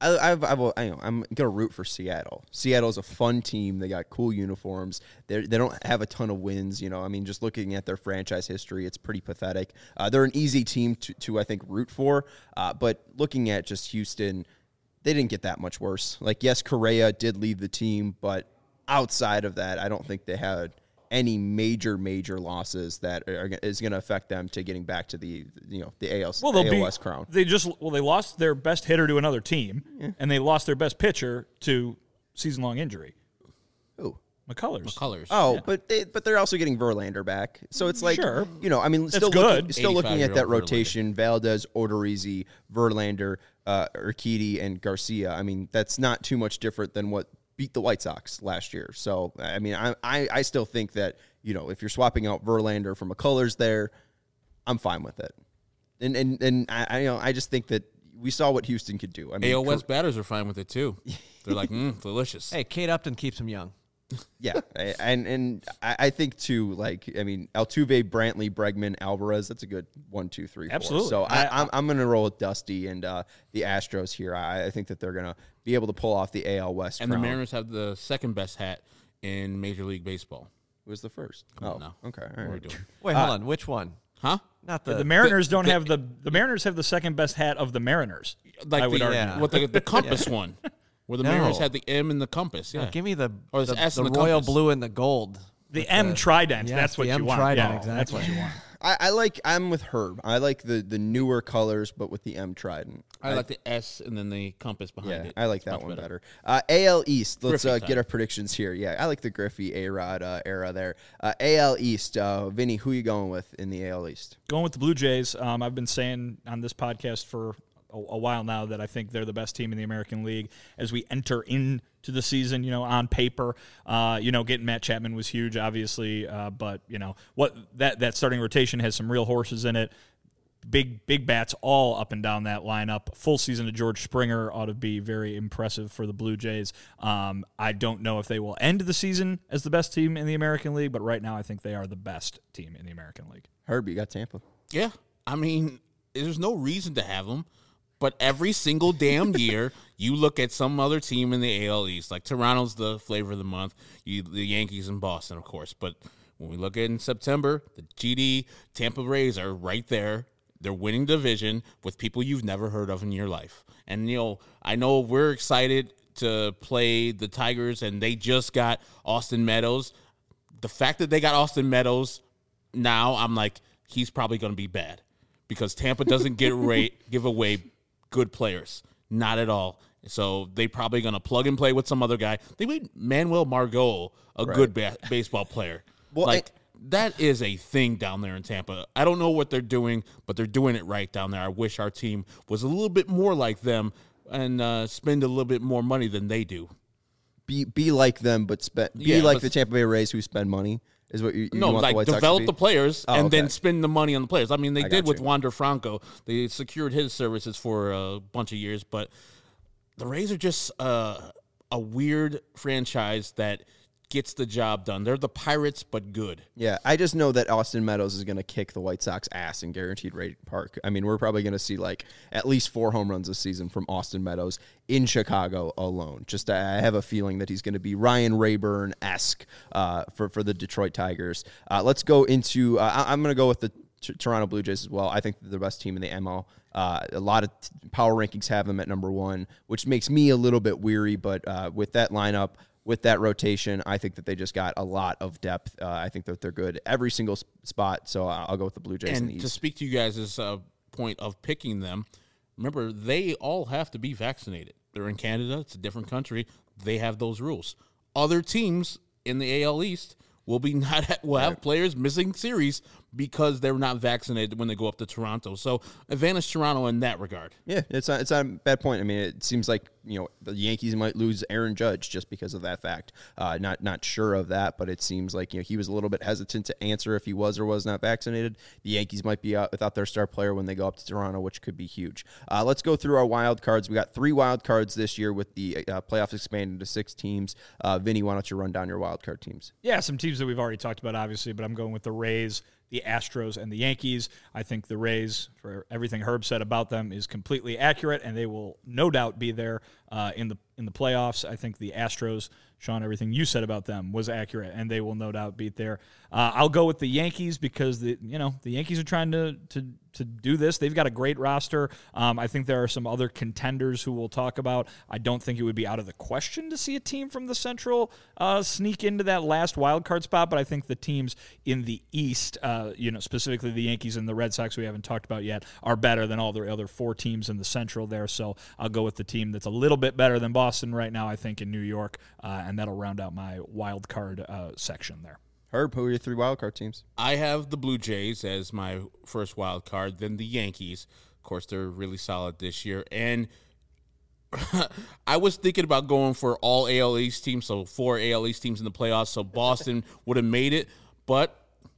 I, I've, I've, I know, I'm gonna root for Seattle. Seattle's a fun team. They got cool uniforms. They they don't have a ton of wins. You know, I mean, just looking at their franchise history, it's pretty pathetic. Uh, they're an easy team to, to I think root for. Uh, but looking at just Houston, they didn't get that much worse. Like, yes, Correa did leave the team, but outside of that, I don't think they had any major, major losses that are, is going to affect them to getting back to the, you know, the A L, well, they'll A L be, West crown. They just well, they lost their best hitter to another team, yeah. and they lost their best pitcher to season-long injury. Who? McCullers. McCullers. Oh, yeah. but they, but they're also getting Verlander back, so it's like sure. you know, I mean, still good. looking, still looking at that eighty-five-year-old rotation: Valdez, Odorizzi, Verlander, uh, Urquidy, and Garcia. I mean, that's not too much different than what beat the White Sox last year. So, I mean, I I, I still think that, you know, if you're swapping out Verlander for McCullers there, I'm fine with it. And and and I, I you know I just think that we saw what Houston could do. I mean, A L West batters are fine with it too. They're like, mm, delicious. Hey, Kate Upton keeps him young. Yeah, and and I think too, like, I mean, Altuve, Brantley, Bregman, Alvarez. That's a good one, two, three, four. Absolutely. So I, I, I'm I'm going to roll with Dusty and uh, the Astros here. I, I think that they're going to be able to pull off the A L West. And crown. the Mariners have the second best hat in Major League Baseball. Who was the first? Come oh, on now. okay. All What are we right. doing? Wait, hold uh, on. Which one? Huh? Not the the Mariners the, don't the, have the the Mariners have the second best hat of the Mariners. Like I would the, argue. yeah. What the, the compass yeah. one, where the no. Mariners had the M and the compass. Yeah, no, give me the or the, S the, the royal compass. blue and the gold. The M the, trident. Yes, that's what the you M want. Trident, yeah, exactly. That's what you want. I, I like. I'm with Herb. I like the the newer colors, but with the M trident. I, I like the S and then the compass behind yeah, it. I like that Much one better. better. Uh, A L East. Let's uh, time. get our predictions here. Yeah, I like the Griffey A-Rod uh, era there. Uh, A L East. Uh, Vinny, who you going with in the A L East? Going with the Blue Jays. Um, I've been saying on this podcast for a, a while now that I think they're the best team in the American League as we enter into the season. You know, on paper, uh, you know, getting Matt Chapman was huge, obviously, uh, but you know what that that starting rotation has some real horses in it. Big, big bats all up and down that lineup. Full season of George Springer ought to be very impressive for the Blue Jays. Um, I don't know if they will end the season as the best team in the American League, but right now I think they are the best team in the American League. Herb, you got Tampa. Yeah, I mean, there's no reason to have them, but every single damn year you look at some other team in the A L East, like Toronto's the flavor of the month, you, the Yankees and Boston, of course, but when we look at in September, the G D Tampa Rays are right there. They're winning division with people you've never heard of in your life. And, you know, I know we're excited to play the Tigers, and they just got Austin Meadows. The fact that they got Austin Meadows now, I'm like, he's probably going to be bad because Tampa doesn't get rate, give away good players. Not at all. So they probably going to plug and play with some other guy. They made Manuel Margot a right. good ba- baseball player. Well, like, I- that is a thing down there in Tampa. I don't know what they're doing, but they're doing it right down there. I wish our team was a little bit more like them and uh, spend a little bit more money than they do. Be be like them, but spend be Yeah, like but- the Tampa Bay Rays who spend money. Is what you, you No, want like the White Sox to develop be? the players Oh, and okay. then spend the money on the players. I mean, they I did got with you. Wander Franco. They secured his services for a bunch of years, but the Rays are just uh, a weird franchise that gets the job done. They're the Pirates, but good. Yeah, I just know that Austin Meadows is going to kick the White Sox ass in Guaranteed Rate Park. I mean, we're probably going to see like at least four home runs this season from Austin Meadows in Chicago alone. Just I have a feeling that he's going to be Ryan Rayburn-esque uh, for, for the Detroit Tigers. Uh, let's go into uh, – I'm going to go with the t- Toronto Blue Jays as well. I think they're the best team in the M L. Uh, a lot of t- power rankings have them at number one, which makes me a little bit weary, but uh, with that lineup – with that rotation, I think that they just got a lot of depth. Uh, I think that they're good every single sp- spot, so I'll go with the Blue Jays in And the to East. speak to you guys' uh, point of picking them, remember, they all have to be vaccinated. They're in Canada. It's a different country. They have those rules. Other teams in the A L East will be not will have players missing series because they're not vaccinated when they go up to Toronto. So advantage Toronto in that regard. Yeah, it's not, it's not a bad point. I mean, it seems like, you know, the Yankees might lose Aaron Judge just because of that fact. Uh, not not sure of that, but it seems like, you know, he was a little bit hesitant to answer if he was or was not vaccinated. The Yankees might be out without their star player when they go up to Toronto, which could be huge. Uh, let's go through our wild cards. We got three wild cards this year with the uh, playoffs expanded to six teams. Uh, Vinny, why don't you run down your wild card teams? Yeah, some teams that we've already talked about, obviously, but I'm going with the Rays, the Astros and the Yankees. I think the Rays, for everything Herb said about them, is completely accurate, and they will no doubt be there uh, in the in the playoffs. I think the Astros, Sean, everything you said about them was accurate, and they will no doubt beat there. Uh, I'll go with the Yankees because the you know the Yankees are trying to to to do this. They've got a great roster. Um, I think there are some other contenders who we'll talk about. I don't think it would be out of the question to see a team from the Central uh, sneak into that last wild card spot, but I think the teams in the East, uh, you know, specifically the Yankees and the Red Sox we haven't talked about yet, are better than all the other four teams in the Central there. So I'll go with the team that's a little bit better than Boston right now, I think, in New York, uh, and that'll round out my wild card uh, section there. Herb, who are your three wild card teams? I have the Blue Jays as my first wild card, then the Yankees. Of course, they're really solid this year. And I was thinking about going for all A L East teams, so four A L East teams in the playoffs, so Boston would have made it. But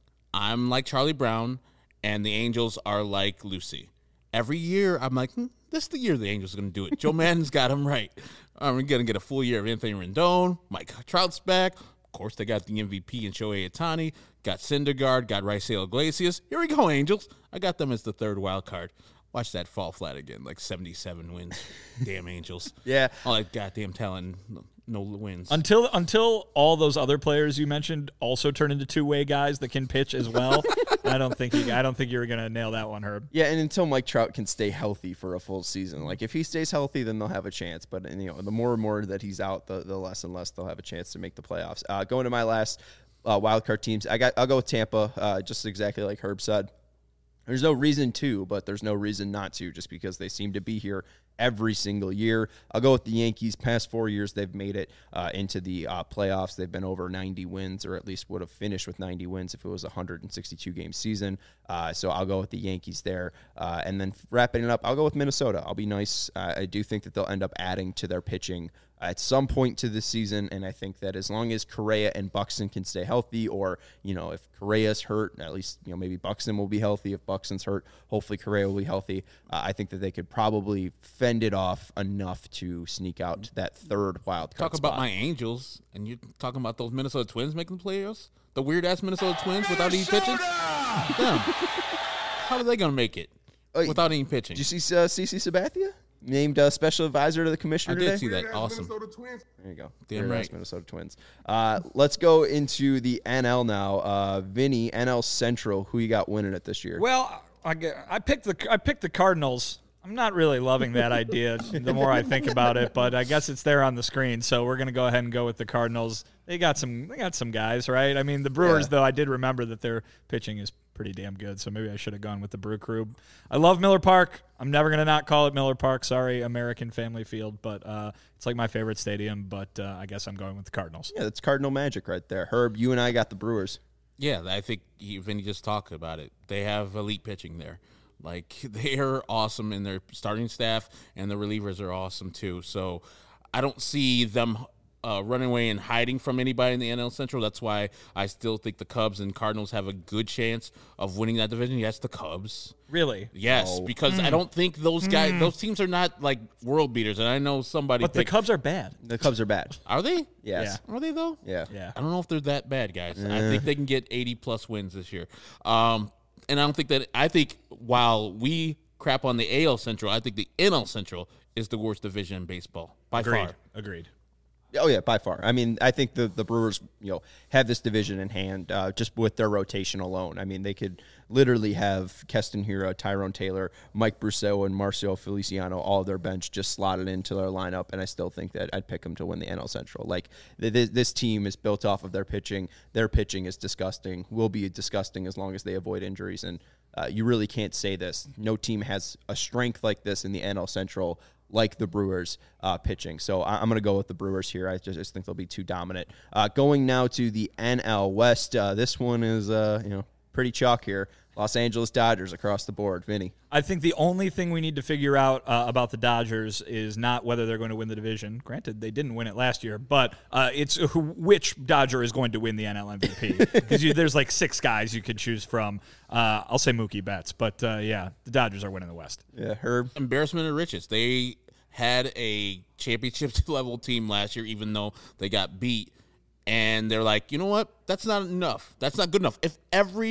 I'm like Charlie Brown, and the Angels are like Lucy. Every year, I'm like, hmm, this is the year the Angels are going to do it. Joe Maddon's got them right. I'm going to get a full year of Anthony Rendon. Mike Trout's back. Of course, they got the M V P in Shohei Ohtani, got Syndergaard, got Raisel Iglesias. Here we go, Angels. I got them as the third wild card. Watch that fall flat again, like seventy-seven wins. Damn Angels. Yeah. All that goddamn talent, no wins. Until until all those other players you mentioned also turn into two-way guys that can pitch as well. I don't think you, I don't think you were going to nail that one, Herb. Yeah, and until Mike Trout can stay healthy for a full season. Like, if he stays healthy, then they'll have a chance. But, you know, the more and more that he's out, the, the less and less they'll have a chance to make the playoffs. Uh, going to my last uh, wild card teams, I got, I'll go with Tampa, uh, just exactly like Herb said. There's no reason to, but there's no reason not to, just because they seem to be here every single year. I'll go with the Yankees. Past four years, they've made it uh, into the uh, playoffs. They've been over ninety wins, or at least would have finished with ninety wins if it was a one hundred sixty-two game season. Uh, so I'll go with the Yankees there. Uh, and then wrapping it up, I'll go with Minnesota. I'll be nice. Uh, I do think that they'll end up adding to their pitching at some point to this season, and I think that as long as Correa and Buxton can stay healthy, or, you know, if Correa's hurt, at least, you know, maybe Buxton will be healthy. If Buxton's hurt, hopefully Correa will be healthy. Uh, I think that they could probably fend it off enough to sneak out to that third wild card Talk spot. about my Angels, and you're talking about those Minnesota Twins making the playoffs? The weird-ass Minnesota Twins without any pitching? Damn. How are they going to make it Uh, without any pitching? Did you see uh, CeCe Sabathia? Named uh, special advisor to the I commissioner did today? see that. Awesome. There you go. Damn Very nice right. Minnesota Twins. Uh, let's go into the N L now. Uh, Vinny, N L Central, who you got winning it this year? Well, I, g- I picked the I picked the Cardinals. I'm not really loving that idea the more I think about it, but I guess it's there on the screen, so we're gonna go ahead and go with the Cardinals. They got some they got some guys, right? I mean, the Brewers, Yeah. though, I did remember that their pitching is pretty damn good, so maybe I should have gone with the Brew Crew. I love Miller Park. I'm never gonna not call it Miller Park. Sorry, American Family Field, but uh, it's like my favorite stadium. But uh, I guess I'm going with the Cardinals. Yeah, that's Cardinal magic right there. Herb, you and I got the Brewers. Yeah, I think he, Vinny just talked about it. They have elite pitching there. Like, they are awesome in their starting staff, and the relievers are awesome too. So I don't see them uh, running away and hiding from anybody in the N L Central. That's why I still think the Cubs and Cardinals have a good chance of winning that division. Yes, the Cubs. Really? Yes, No. because I don't think those guys, those teams are not like world beaters. And I know somebody. But the picked- Cubs are bad. The Cubs are bad. are they? Yes. Are they though? Yeah. Yeah. I don't know if they're that bad, guys. I think they can get eighty plus wins this year. Um, and I don't think that. I think while we crap on the A L Central, I think the N L Central is the worst division in baseball by Agreed. far. Agreed. Oh, yeah, by far. I mean, I think the, the Brewers, you know, have this division in hand uh, just with their rotation alone. I mean, they could literally have Keston Hiura, Tyrone Taylor, Mike Brousseau, and Marcio Feliciano, all of their bench just slotted into their lineup, and I still think that I'd pick them to win the N L Central. Like, th- th- this team is built off of their pitching. Their pitching is disgusting, will be disgusting as long as they avoid injuries, and uh, you really can't say this. No team has a strength like this in the N L Central like the Brewers uh, pitching. So I- I'm going to go with the Brewers here. I just, just think they'll be too dominant. Uh, going now to the N L West. Uh, this one is, uh, you know, pretty chalk here. Los Angeles Dodgers across the board. Vinny. I think the only thing we need to figure out uh, about the Dodgers is not whether they're going to win the division. Granted, they didn't win it last year, but uh, it's who, which Dodger is going to win the N L M V P. Because there's like six guys you could choose from. Uh, I'll say Mookie Betts, but uh, yeah, the Dodgers are winning the West. Yeah, Herb. Embarrassment of riches. They had a championship level team last year, even though they got beat. And they're like, you know what? That's not enough. That's not good enough. If every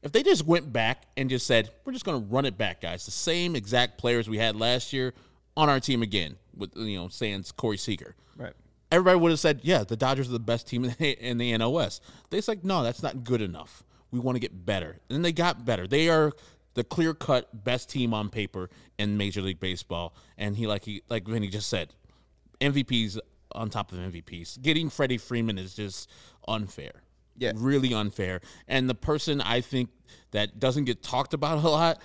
If they just went back and just said, we're just going to run it back, guys, the same exact players we had last year on our team again, with, you know, sans Corey Seager. Right. Everybody would have said, yeah, the Dodgers are the best team in the, in the N L West. They said, no, that's not good enough. We want to get better. And they got better. They are the clear-cut best team on paper in Major League Baseball. And he, like he, like Vinny just said, M V Ps on top of M V Ps. Getting Freddie Freeman is just unfair. Yeah. Really unfair. And the person I think that doesn't get talked about a lot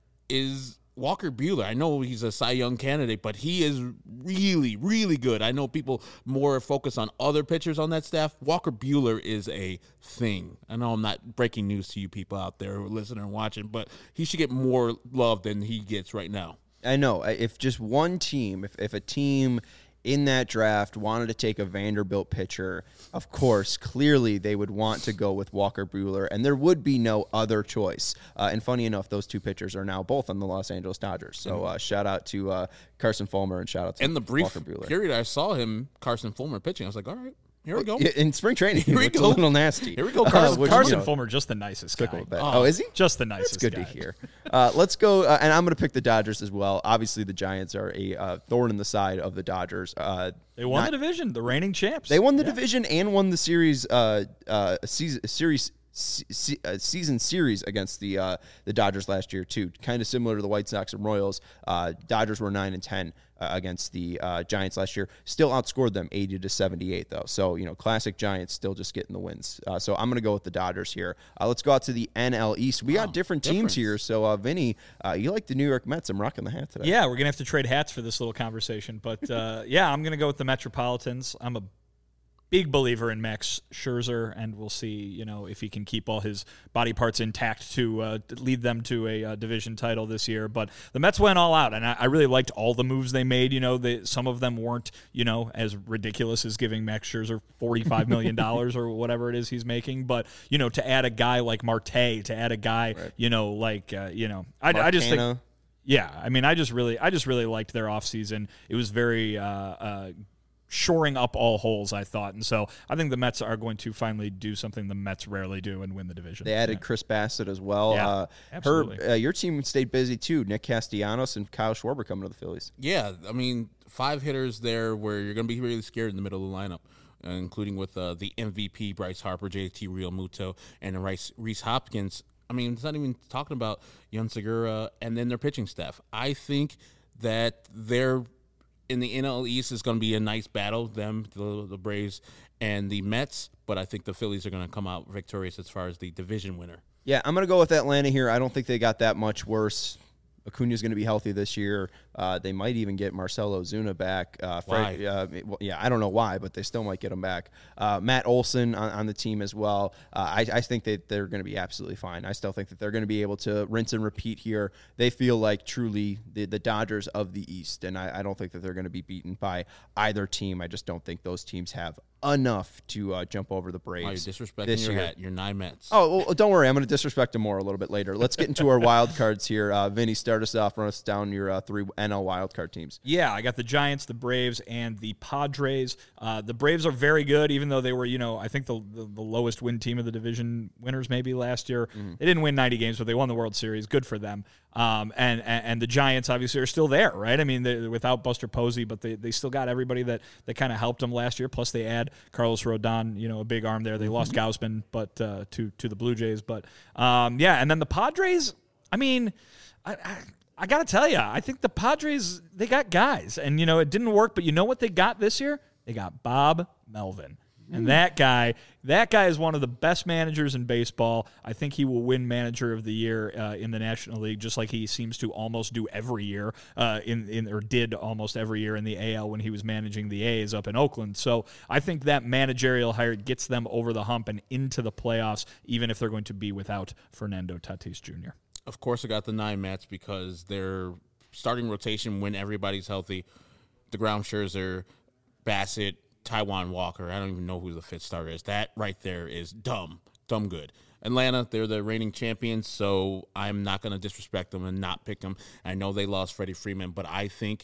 is Walker Buehler. I know he's a Cy Young candidate, but he is really, really good. I know people more focus on other pitchers on that staff. Walker Buehler is a thing. I know I'm not breaking news to you people out there who are listening and watching, but he should get more love than he gets right now. I know. If just one team, if, if a team in that draft wanted to take a Vanderbilt pitcher, of course, clearly they would want to go with Walker Buehler, and there would be no other choice. Uh, and funny enough, those two pitchers are now both on the Los Angeles Dodgers. So uh, shout out to uh, Carson Fulmer and shout out to In the brief Walker Buehler. period I saw him, Carson Fulmer, pitching, I was like, all right, here we go. In spring training, Here we it's go. a little nasty. Here we go, Uh, Carson. which, Carson you know, Fulmer, just the nicest took guy. a little bit. Oh. Oh, is he? Just the nicest It's good guy. to hear. Uh, let's go, uh, and I'm going to pick the Dodgers as well. Obviously, the Giants are a uh, thorn in the side of the Dodgers. Uh, They won not- the division, the reigning champs. They won the Yeah. division and won the series, uh, uh, season, series, se- uh, season series against the uh, the Dodgers last year too. Kind of similar to the White Sox and Royals. Uh, Dodgers were nine and ten uh, against the uh, Giants last year. Still outscored them eighty to seventy-eight though. So you know, classic Giants still just getting the wins. Uh, so I'm gonna go with the Dodgers here. Uh, let's go out to the N L East. We Wow, got different teams difference. here. So uh, Vinny, uh, you like the New York Mets? I'm rocking the hat today. Yeah, we're gonna have to trade hats for this little conversation, but uh, yeah, I'm gonna go with the Metropolitans. I'm a big believer in Max Scherzer, and we'll see, you know, if he can keep all his body parts intact to uh, lead them to a uh, division title this year. But the Mets went all out, and I, I really liked all the moves they made. You know, they, some of them weren't, you know, as ridiculous as giving Max Scherzer forty-five million dollars or whatever it is he's making. But, you know, to add a guy like Marte, to add a guy, Right. you know, like, uh, you know, I, I just think. Marcano. Yeah, I mean, I just really, I just really liked their offseason. It was very uh, uh, shoring up all holes, I thought, and so I think the Mets are going to finally do something the Mets rarely do and win the division. They added Chris Bassett as well. Yeah, uh, absolutely. Herb, uh, your team stayed busy too. Nick Castellanos and Kyle Schwarber coming to the Phillies. Yeah, I mean, five hitters there where you're going to be really scared in the middle of the lineup, uh, including with uh, the M V P, Bryce Harper, J T Realmuto, and Rice, Reese Hopkins. I mean, it's not even talking about Yun Segura and then their pitching staff. I think that they're in the N L East is going to be a nice battle, them, the, the Braves, and the Mets, but I think the Phillies are going to come out victorious as far as the division winner. Yeah, I'm going to go with Atlanta here. I don't think they got that much worse. Acuna's going to be healthy this year. Uh, they might even get Marcelo Ozuna back. Uh, Fred, Why? uh, well, yeah, I don't know why, but they still might get him back. Uh, Matt Olson on, on the team as well. Uh, I, I think that they're going to be absolutely fine. I still think that they're going to be able to rinse and repeat here. They feel like truly the, the Dodgers of the East, and I, I don't think that they're going to be beaten by either team. I just don't think those teams have enough to uh, jump over the Braves. Oh, you're disrespecting this your year. hat. You're nine Mets. Oh, well, don't worry. I'm going to disrespect them more a little bit later. Let's get into our wild cards here. Uh, Vinny, start us off. Run us down your uh, three N L wild card teams. Yeah, I got the Giants, the Braves, and the Padres. Uh, the Braves are very good, even though they were, you know, I think the the, the lowest win team of the division winners maybe last year. Mm-hmm. They didn't win ninety games, but they won the World Series. Good for them. Um, and, and and the Giants obviously are still there, right? I mean, they're without Buster Posey, but they, they still got everybody that, that kind of helped them last year. Plus, they add Carlos Rodon, you know, a big arm there. They lost Gausman, but uh, to to the Blue Jays, but um, yeah. And then the Padres. I mean, I. I I got to tell you, I think the Padres, they got guys. And, you know, it didn't work, but you know what they got this year? They got Bob Melvin. And that guy, that guy is one of the best managers in baseball. I think he will win Manager of the Year uh, in the National League, just like he seems to almost do every year, uh, in, in or did almost every year in the A L when he was managing the A's up in Oakland. So I think that managerial hire gets them over the hump and into the playoffs, even if they're going to be without Fernando Tatis Junior Of course, I got the nine Mets because their starting rotation when everybody's healthy, DeGrom, Scherzer, Bassett, Taijuan Walker. I don't even know who the fifth starter is. That right there is dumb, dumb good. Atlanta, they're the reigning champions, so I'm not going to disrespect them and not pick them. I know they lost Freddie Freeman, but I think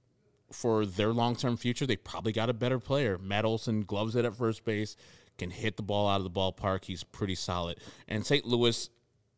for their long-term future, they probably got a better player. Matt Olson gloves it at first base, can hit the ball out of the ballpark. He's pretty solid. And Saint Louis,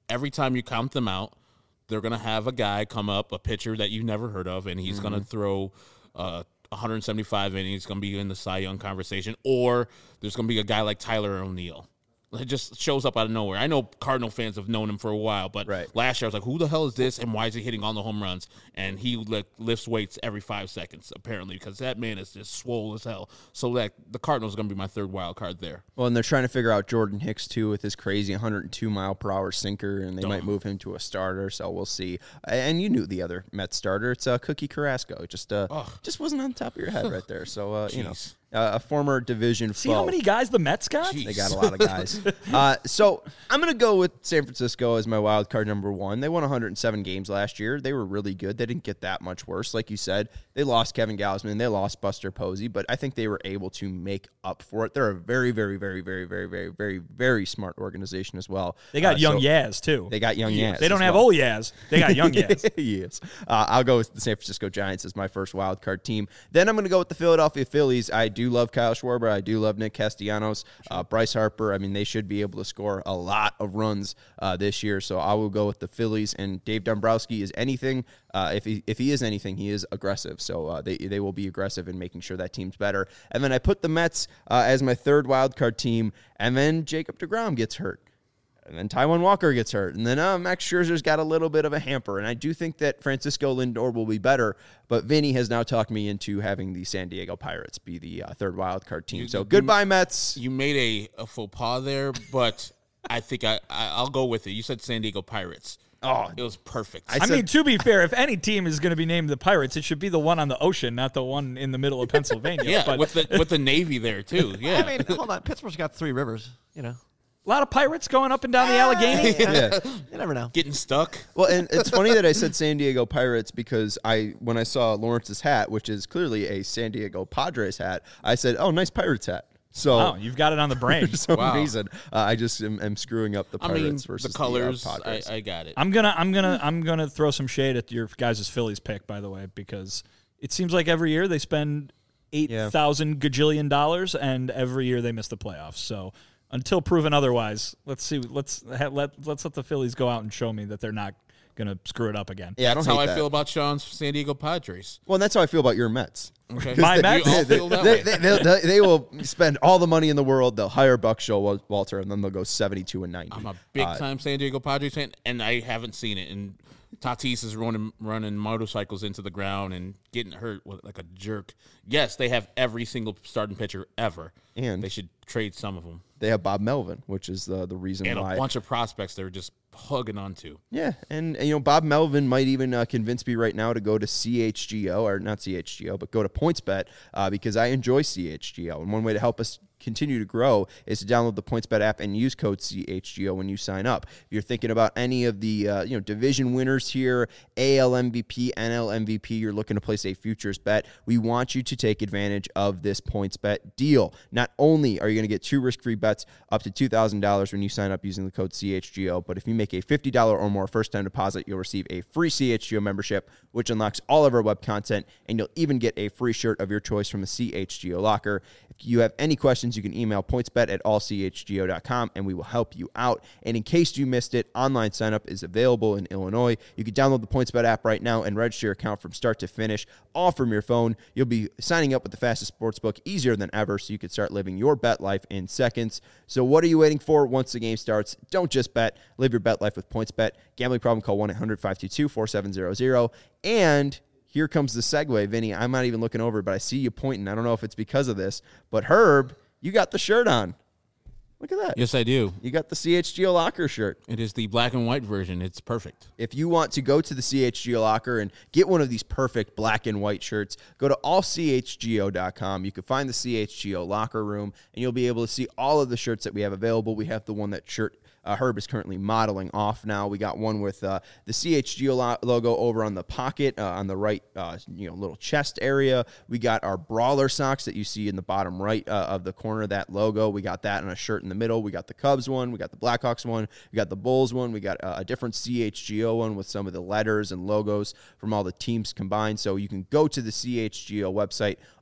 every time you count them out, they're going to have a guy come up, a pitcher that you've never heard of, and he's mm-hmm. going to throw uh, one hundred seventy-five innings. He's going to be in the Cy Young conversation. Or there's going to be a guy like Tyler O'Neill. It just shows up out of nowhere. I know Cardinal fans have known him for a while, but right. last year I was like, who the hell is this, and why is he hitting all the home runs? And he like, lifts weights every five seconds, apparently, because that man is just swole as hell. So that the Cardinals are going to be my third wild card there. Well, and they're trying to figure out Jordan Hicks, too, with his crazy one hundred two mile per hour sinker, and they Dumb. might move him to a starter, so we'll see. And you knew the other Mets starter. It's uh, Cookie Carrasco. It just, uh, just wasn't on the top of your head right there. So, uh, you know. Uh, a former division See foe. how many guys the Mets got? Jeez. They got a lot of guys. uh, so I'm going to go with San Francisco as my wild card number one. They won one hundred seven games last year. They were really good. They didn't get that much worse. Like you said, they lost Kevin Gausman. They lost Buster Posey, but I think they were able to make up for it. They're a very, very, very, very, very, very, very, very smart organization as well. They got uh, young so Yaz, too. They got young Yaz. They don't have well. old Yaz. They got young Yaz. Yes. Uh, I'll go with the San Francisco Giants as my first wild card team. Then I'm going to go with the Philadelphia Phillies. I do love Kyle Schwarber. I do love Nick Castellanos, uh, Bryce Harper. I mean, they should be able to score a lot of runs uh, this year. So I will go with the Phillies. And Dave Dombrowski is anything. Uh, if he if he is anything, he is aggressive. So uh, they they will be aggressive in making sure that team's better. And then I put the Mets uh, as my third wild card team. And then Jacob deGrom gets hurt. And then Taijuan Walker gets hurt. And then uh, Max Scherzer's got a little bit of a hamper. And I do think that Francisco Lindor will be better. But Vinny has now talked me into having the San Diego Pirates be the uh, third wild card team. You, so you, goodbye, Mets. You made a, a faux pas there, but I think I, I, I'll go with it. You said San Diego Pirates. Oh, it was perfect. I, I mean, to be fair, if any team is going to be named the Pirates, it should be the one on the ocean, not the one in the middle of Pennsylvania. Yeah, but, with the with the Navy there, too. Yeah. I mean, hold on. Pittsburgh's got three rivers, you know. A lot of pirates going up and down the Allegheny. Yeah. You never know. Getting stuck. Well, and it's funny that I said San Diego Pirates because I, when I saw Lawrence's hat, which is clearly a San Diego Padres hat, I said, "Oh, nice Pirates hat." So oh, you've got it on the brain. For some wow. reason, uh, I just am, am screwing up the Pirates I mean, versus the colors. The, uh, Padres. I, I got it. I'm gonna, I'm gonna, I'm gonna throw some shade at your guys' Phillies pick, by the way, because it seems like every year they spend eight thousand yeah. gajillion dollars, and every year they miss the playoffs. So. Until proven otherwise, let's see. Let's ha, let let's let the Phillies go out and show me that they're not going to screw it up again. Yeah, I don't that's hate how that. I feel about Sean's San Diego Padres. Well, and that's how I feel about your Mets. Okay, my Mets. You all feel that way. They, they, they, they will spend all the money in the world. They'll hire Buck Showalter, and then they'll go seventy-two and ninety. I'm a big uh, time San Diego Padres fan, and I haven't seen it. And Tatis is running running motorcycles into the ground and getting hurt like a jerk. Yes, they have every single starting pitcher ever, and they should trade some of them. They have Bob Melvin, which is the the reason and why. And a bunch of prospects they're just hugging onto. Yeah, and, and you know Bob Melvin might even uh, convince me right now to go to C H G O, or not C H G O, but go to PointsBet uh, because I enjoy C H G O. And one way to help us continue to grow is to download the PointsBet app and use code C H G O when you sign up. If you're thinking about any of the uh, you know division winners here, A L M V P, N L M V P, you're looking to place a futures bet, we want you to take advantage of this PointsBet deal. Not only are you going to get two risk-free bets up to two thousand dollars when you sign up using the code C H G O, but if you make a fifty dollars or more first-time deposit, you'll receive a free C H G O membership, which unlocks all of our web content, and you'll even get a free shirt of your choice from the C H G O locker. If you have any questions, you can email pointsbet at all c h g o dot com, and we will help you out. And in case you missed it, online sign-up is available in Illinois. You can download the PointsBet app right now and register your account from start to finish, all from your phone. You'll be signing up with the fastest sportsbook easier than ever, so you can start living your bet life in seconds. So what are you waiting for? Once the game starts, don't just bet. Live your bet life with PointsBet. Gambling problem, call one eight hundred five two two four seven zero zero. And here comes the segue, Vinny. I'm not even looking over, but I see you pointing. I don't know if it's because of this, but Herb, you got the shirt on. Look at that. Yes, I do. You got the C H G O Locker shirt. It is the black and white version. It's perfect. If you want to go to the C H G O Locker and get one of these perfect black and white shirts, go to all c h g o dot com. You can find the C H G O Locker Room, and you'll be able to see all of the shirts that we have available. We have the one that shirt Uh, Herb is currently modeling off now. We got one with uh, the C H G O lo- logo over on the pocket, uh, on the right, uh, you know, little chest area. We got our Brawler socks that you see in the bottom right uh, of the corner of that logo. We got that on a shirt in the middle. We got the Cubs one. We got the Blackhawks one. We got the Bulls one. We got uh, a different C H G O one with some of the letters and logos from all the teams combined. So you can go to the C H G O website,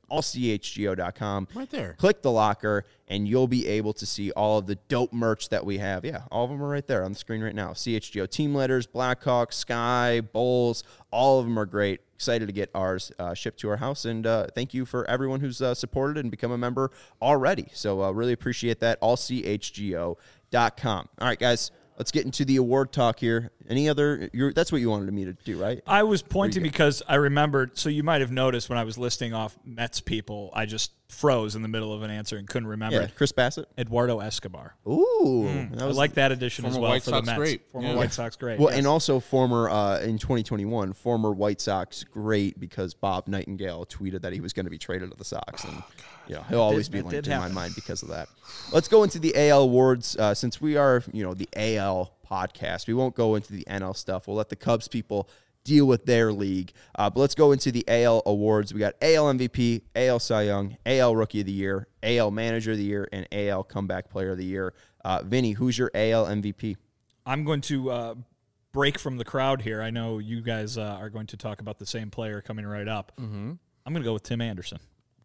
all c h g o dot com. Right there. Click the locker, and you'll be able to see all of the dope merch that we have. Yeah, all of them are right there on the screen right now. C H G O team letters, Blackhawks, Sky, Bulls, all of them are great. Excited to get ours uh, shipped to our house, and uh, thank you for everyone who's uh, supported and become a member already. So uh, really appreciate that. all c h g o dot com. All right, guys, let's get into the award talk here. Any other? You're, that's what you wanted me to do, right? I was pointing because I remembered. So you might have noticed when I was listing off Mets people, I just froze in the middle of an answer and couldn't remember. Yeah, Chris Bassett. Eduardo Escobar. Ooh, Mm, that was I like that addition as Former well White for Sox the Mets. great. Former Yeah. White Sox great. Well, yes. and also former uh, in twenty twenty-one, former White Sox great because Bob Nightingale tweeted that he was going to be traded to the Sox, and you know he'll always be that linked did in my happen. mind because of that. Let's go into the A L awards uh, since we are you know the A L podcast. We won't go into the N L stuff. We'll let the Cubs people deal with their league. Uh, but let's go into the A L awards. We got A L M V P, A L Cy Young, A L Rookie of the Year, A L Manager of the Year, and A L Comeback Player of the Year. Uh, Vinny, who's your A L M V P? I'm going to uh, break from the crowd here. I know you guys uh, are going to talk about the same player coming right up. Mm-hmm. I'm going to go with Tim Anderson.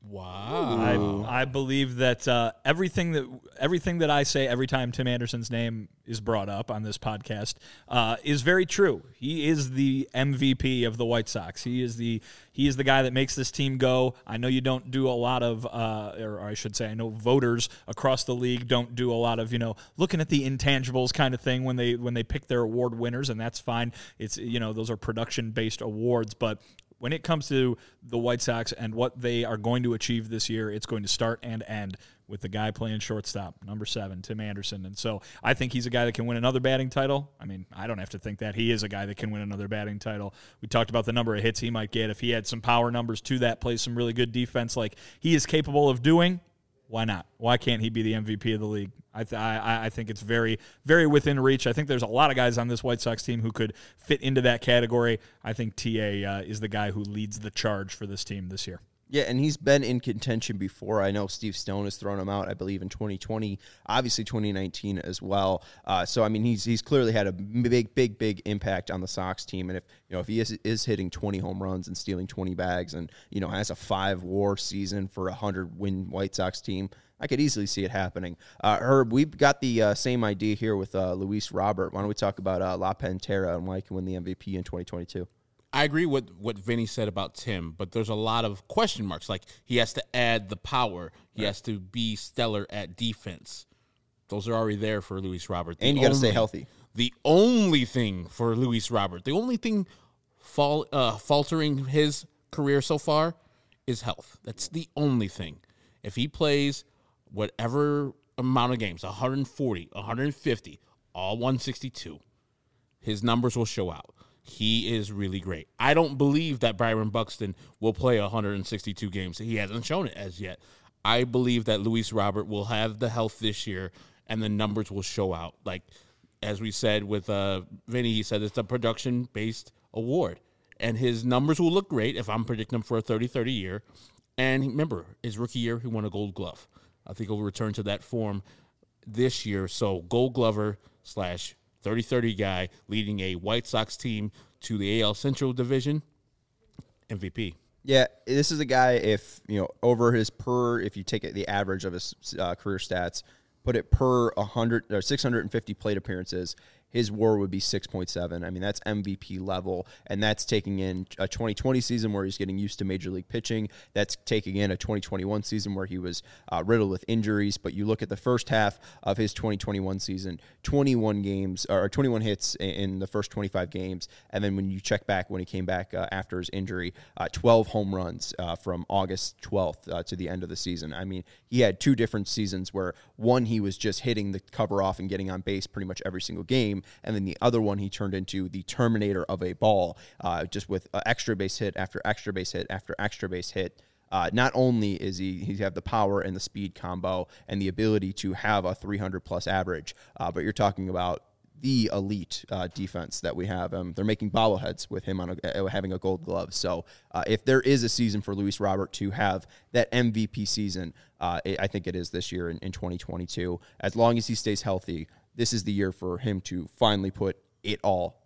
Wow. I, I believe that uh, everything that everything that I say every time Tim Anderson's name is brought up on this podcast uh, is very true. He is the M V P of the White Sox. He is the he is the guy that makes this team go. I know you don't do a lot of, uh, or I should say, I know voters across the league don't do a lot of you know looking at the intangibles kind of thing when they when they pick their award winners, and that's fine. It's you know those are production based awards, but when it comes to the White Sox and what they are going to achieve this year, it's going to start and end with the guy playing shortstop, number seven, Tim Anderson. And so I think he's a guy that can win another batting title. I mean, I don't have to think that. He is a guy that can win another batting title. We talked about the number of hits he might get. If he had some power numbers to that, plays some really good defense like he is capable of doing, why not? Why can't he be the M V P of the league? I, th- I I think it's very, very within reach. I think there's a lot of guys on this White Sox team who could fit into that category. I think T A uh, is the guy who leads the charge for this team this year. Yeah, and he's been in contention before. I know Steve Stone has thrown him out, I believe, in twenty twenty, obviously twenty nineteen as well. Uh, so, I mean, he's he's clearly had a big, big, big impact on the Sox team. And if you know if he is, is hitting twenty home runs and stealing twenty bags and, you know, has a five-war season for a hundred-win White Sox team, I could easily see it happening. Uh, Herb, we've got the uh, same idea here with uh, Luis Robert. Why don't we talk about uh, La Pantera and why he can win the M V P in twenty twenty-two? I agree with what Vinny said about Tim, but there's a lot of question marks. Like, he has to add the power. He right. has to be stellar at defense. Those are already there for Luis Robert. The and you got to only, stay healthy. The only thing for Luis Robert, the only thing fall, uh, faltering his career so far is health. That's the only thing. If he plays whatever amount of games, one forty, one fifty, all one sixty-two, his numbers will show out. He is really great. I don't believe that Byron Buxton will play one sixty-two games. He hasn't shown it as yet. I believe that Luis Robert will have the health this year, and the numbers will show out. Like, as we said with uh, Vinny, he said it's a production-based award. And his numbers will look great if I'm predicting him for a thirty thirty year. And remember, his rookie year, he won a Gold Glove. I think he'll return to that form this year. So Gold Glover slash thirty thirty guy leading a White Sox team to the A L Central Division, M V P. Yeah, this is a guy, if, you know, over his per, if you take it, the average of his uh, career stats, put it per one hundred or six hundred fifty plate appearances, his WAR would be six point seven. I mean, that's M V P level, and that's taking in a twenty twenty season where he's getting used to major league pitching. That's taking in a twenty twenty-one season where he was uh, riddled with injuries. But you look at the first half of his twenty twenty-one season, twenty-one games or twenty-one hits in the first twenty-five games, and then when you check back when he came back uh, after his injury, uh, twelve home runs uh, from August twelfth uh, to the end of the season. I mean, he had two different seasons where one he was just hitting the cover off and getting on base pretty much every single game. And then the other one, he turned into the Terminator of a ball, uh, just with uh, extra base hit after extra base hit after extra base hit. Uh, not only is he he have the power and the speed combo and the ability to have a three hundred plus average, uh, but you're talking about the elite uh, defense that we have. Um, they're making bobbleheads with him on a, uh, having a Gold Glove. So uh, if there is a season for Luis Robert to have that M V P season, uh, it, I think it is this year in, in twenty twenty-two. As long as he stays healthy, this is the year for him to finally put it all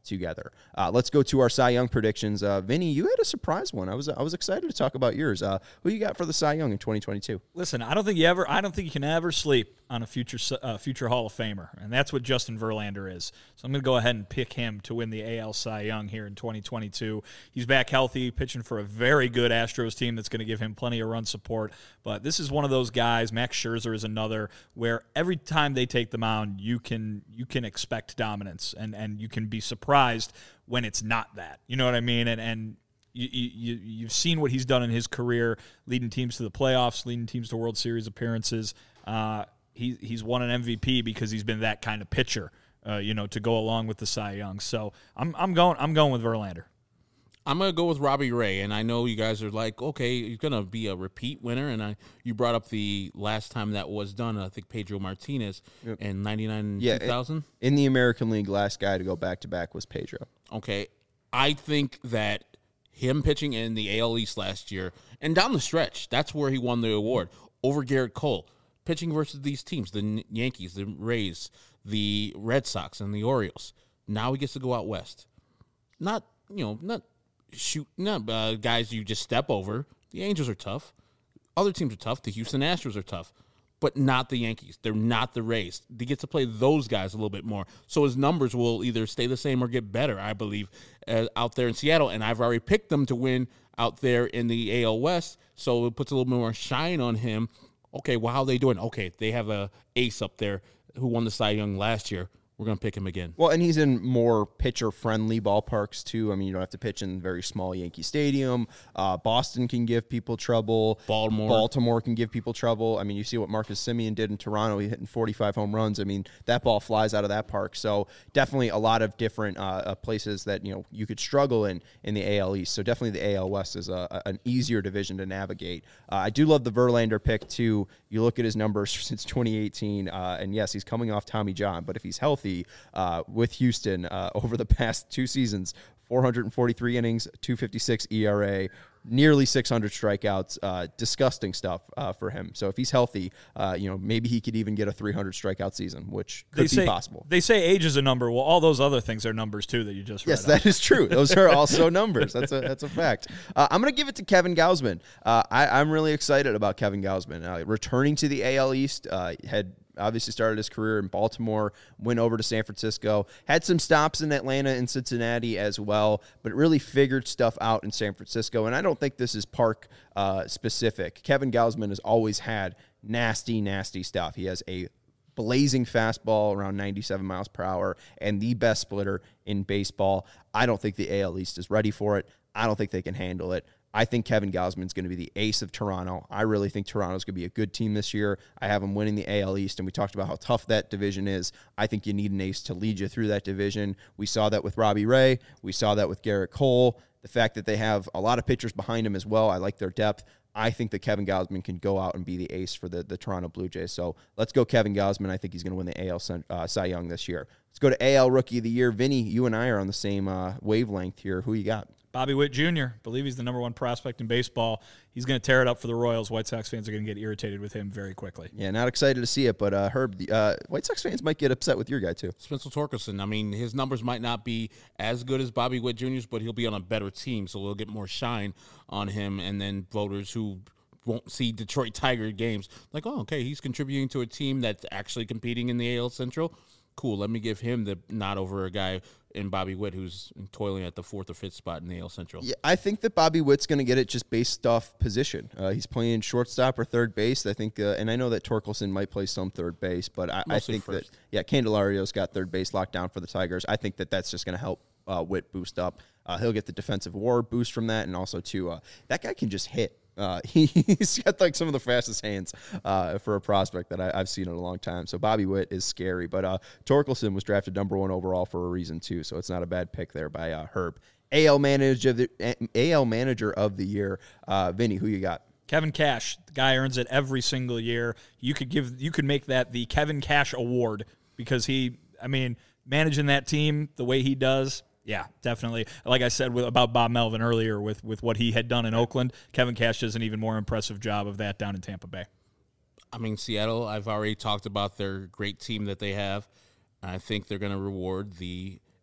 together. Uh, let's go to our Cy Young predictions. Uh, Vinny, you had a surprise one. I was I was excited to talk about yours. Uh, who you got for the Cy Young in twenty twenty-two? Listen, I don't think you ever. I don't think you can ever sleep on a future uh, future Hall of Famer, and that's what Justin Verlander is. So I'm going to go ahead and pick him to win the A L Cy Young here in twenty twenty-two. He's back healthy, pitching for a very good Astros team that's going to give him plenty of run support. But this is one of those guys. Max Scherzer is another where every time they take the mound, you can you can expect dominance, and and you can be surprised when it's not that. You know what I mean? And and you, you, you've seen what he's done in his career, leading teams to the playoffs, leading teams to World Series appearances. Uh, he he's won an M V P because he's been that kind of pitcher, uh, you know, to go along with the Cy Young. So I'm I'm going I'm going with Verlander. I'm gonna go with Robbie Ray, and I know you guys are like, okay, he's gonna be a repeat winner. And I, you brought up the last time that was done. I think Pedro Martinez yep. in ninety-nine yeah, two thousand. In the American League, last guy to go back to back was Pedro. Okay, I think that him pitching in the A L East last year and down the stretch, that's where he won the award over Garrett Cole, pitching versus these teams, the Yankees, the Rays, the Red Sox, and the Orioles. Now he gets to go out west. Not you know not. Shoot, no, uh, guys you just step over. The Angels are tough. Other teams are tough. The Houston Astros are tough, but not the Yankees. They're not the Rays. They get to play those guys a little bit more. So his numbers will either stay the same or get better, I believe, uh, out there in Seattle. And I've already picked them to win out there in the A L West, so it puts a little bit more shine on him. Okay, well, how are they doing? Okay, they have a ace up there who won the Cy Young last year. We're going to pick him again. Well, and he's in more pitcher-friendly ballparks, too. I mean, you don't have to pitch in very small Yankee Stadium. Uh, Boston can give people trouble. Baltimore. Baltimore can give people trouble. I mean, you see what Marcus Semien did in Toronto. He hitting forty-five home runs. I mean, that ball flies out of that park. So definitely a lot of different uh, places that, you know, you could struggle in in the A L East. So definitely the A L West is a, an easier division to navigate. Uh, I do love the Verlander pick, too. You look at his numbers since twenty eighteen, uh, and yes, he's coming off Tommy John, but if he's healthy, Uh, with Houston uh, over the past two seasons, four hundred forty-three innings, two fifty-six E R A, nearly six hundred strikeouts. Uh, disgusting stuff uh, for him. So if he's healthy, uh, you know, maybe he could even get a three hundred strikeout season, which could they be say, possible. They say age is a number. Well, all those other things are numbers too that you just read. Yes, that out. is true. Those are also numbers. That's a that's a fact. Uh, I'm going to give it to Kevin Gausman. Uh, I, I'm really excited about Kevin Gausman uh, returning to the A L East. Uh, had obviously started his career in Baltimore, went over to San Francisco, had some stops in Atlanta and Cincinnati as well, but really figured stuff out in San Francisco. And I don't think this is Park uh, specific. Kevin Gausman has always had nasty, nasty stuff. He has a blazing fastball around ninety-seven miles per hour and the best splitter in baseball. I don't think the A L East is ready for it. I don't think they can handle it. I think Kevin Gausman is going to be the ace of Toronto. I really think Toronto's going to be a good team this year. I have them winning the A L East, and we talked about how tough that division is. I think you need an ace to lead you through that division. We saw that with Robbie Ray. We saw that with Garrett Cole. The fact that they have a lot of pitchers behind him as well, I like their depth. I think that Kevin Gausman can go out and be the ace for the, the Toronto Blue Jays. So let's go Kevin Gausman. I think he's going to win the A L uh, Cy Young this year. Let's go to A L Rookie of the Year. Vinny, you and I are on the same uh, wavelength here. Who you got? Bobby Witt Junior I believe he's the number one prospect in baseball. He's going to tear it up for the Royals. White Sox fans are going to get irritated with him very quickly. Yeah, not excited to see it, but uh, Herb, the, uh, White Sox fans might get upset with your guy too. Spencer Torkelson. I mean, his numbers might not be as good as Bobby Witt Junior's, but he'll be on a better team, so we'll get more shine on him. And then voters who won't see Detroit Tiger games, like, oh, okay, he's contributing to a team that's actually competing in the A L Central. Cool, let me give him the nod over a guy in Bobby Witt who's toiling at the fourth or fifth spot in the A L Central. Yeah, I think that Bobby Witt's going to get it just based off position. Uh, he's playing shortstop or third base. I think, uh, and I know that Torkelson might play some third base, but I, I think first. that yeah, Candelario's got third base locked down for the Tigers. I think that that's just going to help uh, Witt boost up. Uh, he'll get the defensive WAR boost from that, and also too, uh, that guy can just hit. Uh, he, he's got like some of the fastest hands uh, for a prospect that I, I've seen in a long time. So Bobby Witt is scary, but uh, Torkelson was drafted number one overall for a reason too. So it's not a bad pick there by uh, Herb. A L manager of the A L manager of the year, uh, Vinny. Who you got? Kevin Cash. The guy earns it every single year. You could give, you could make that the Kevin Cash Award because he, I mean, managing that team the way he does. Yeah, definitely. Like I said with, about Bob Melvin earlier with, with what he had done in Oakland, Kevin Cash does an even more impressive job of that down in Tampa Bay. I mean, Seattle, I've already talked about their great team that they have. I think they're going to reward the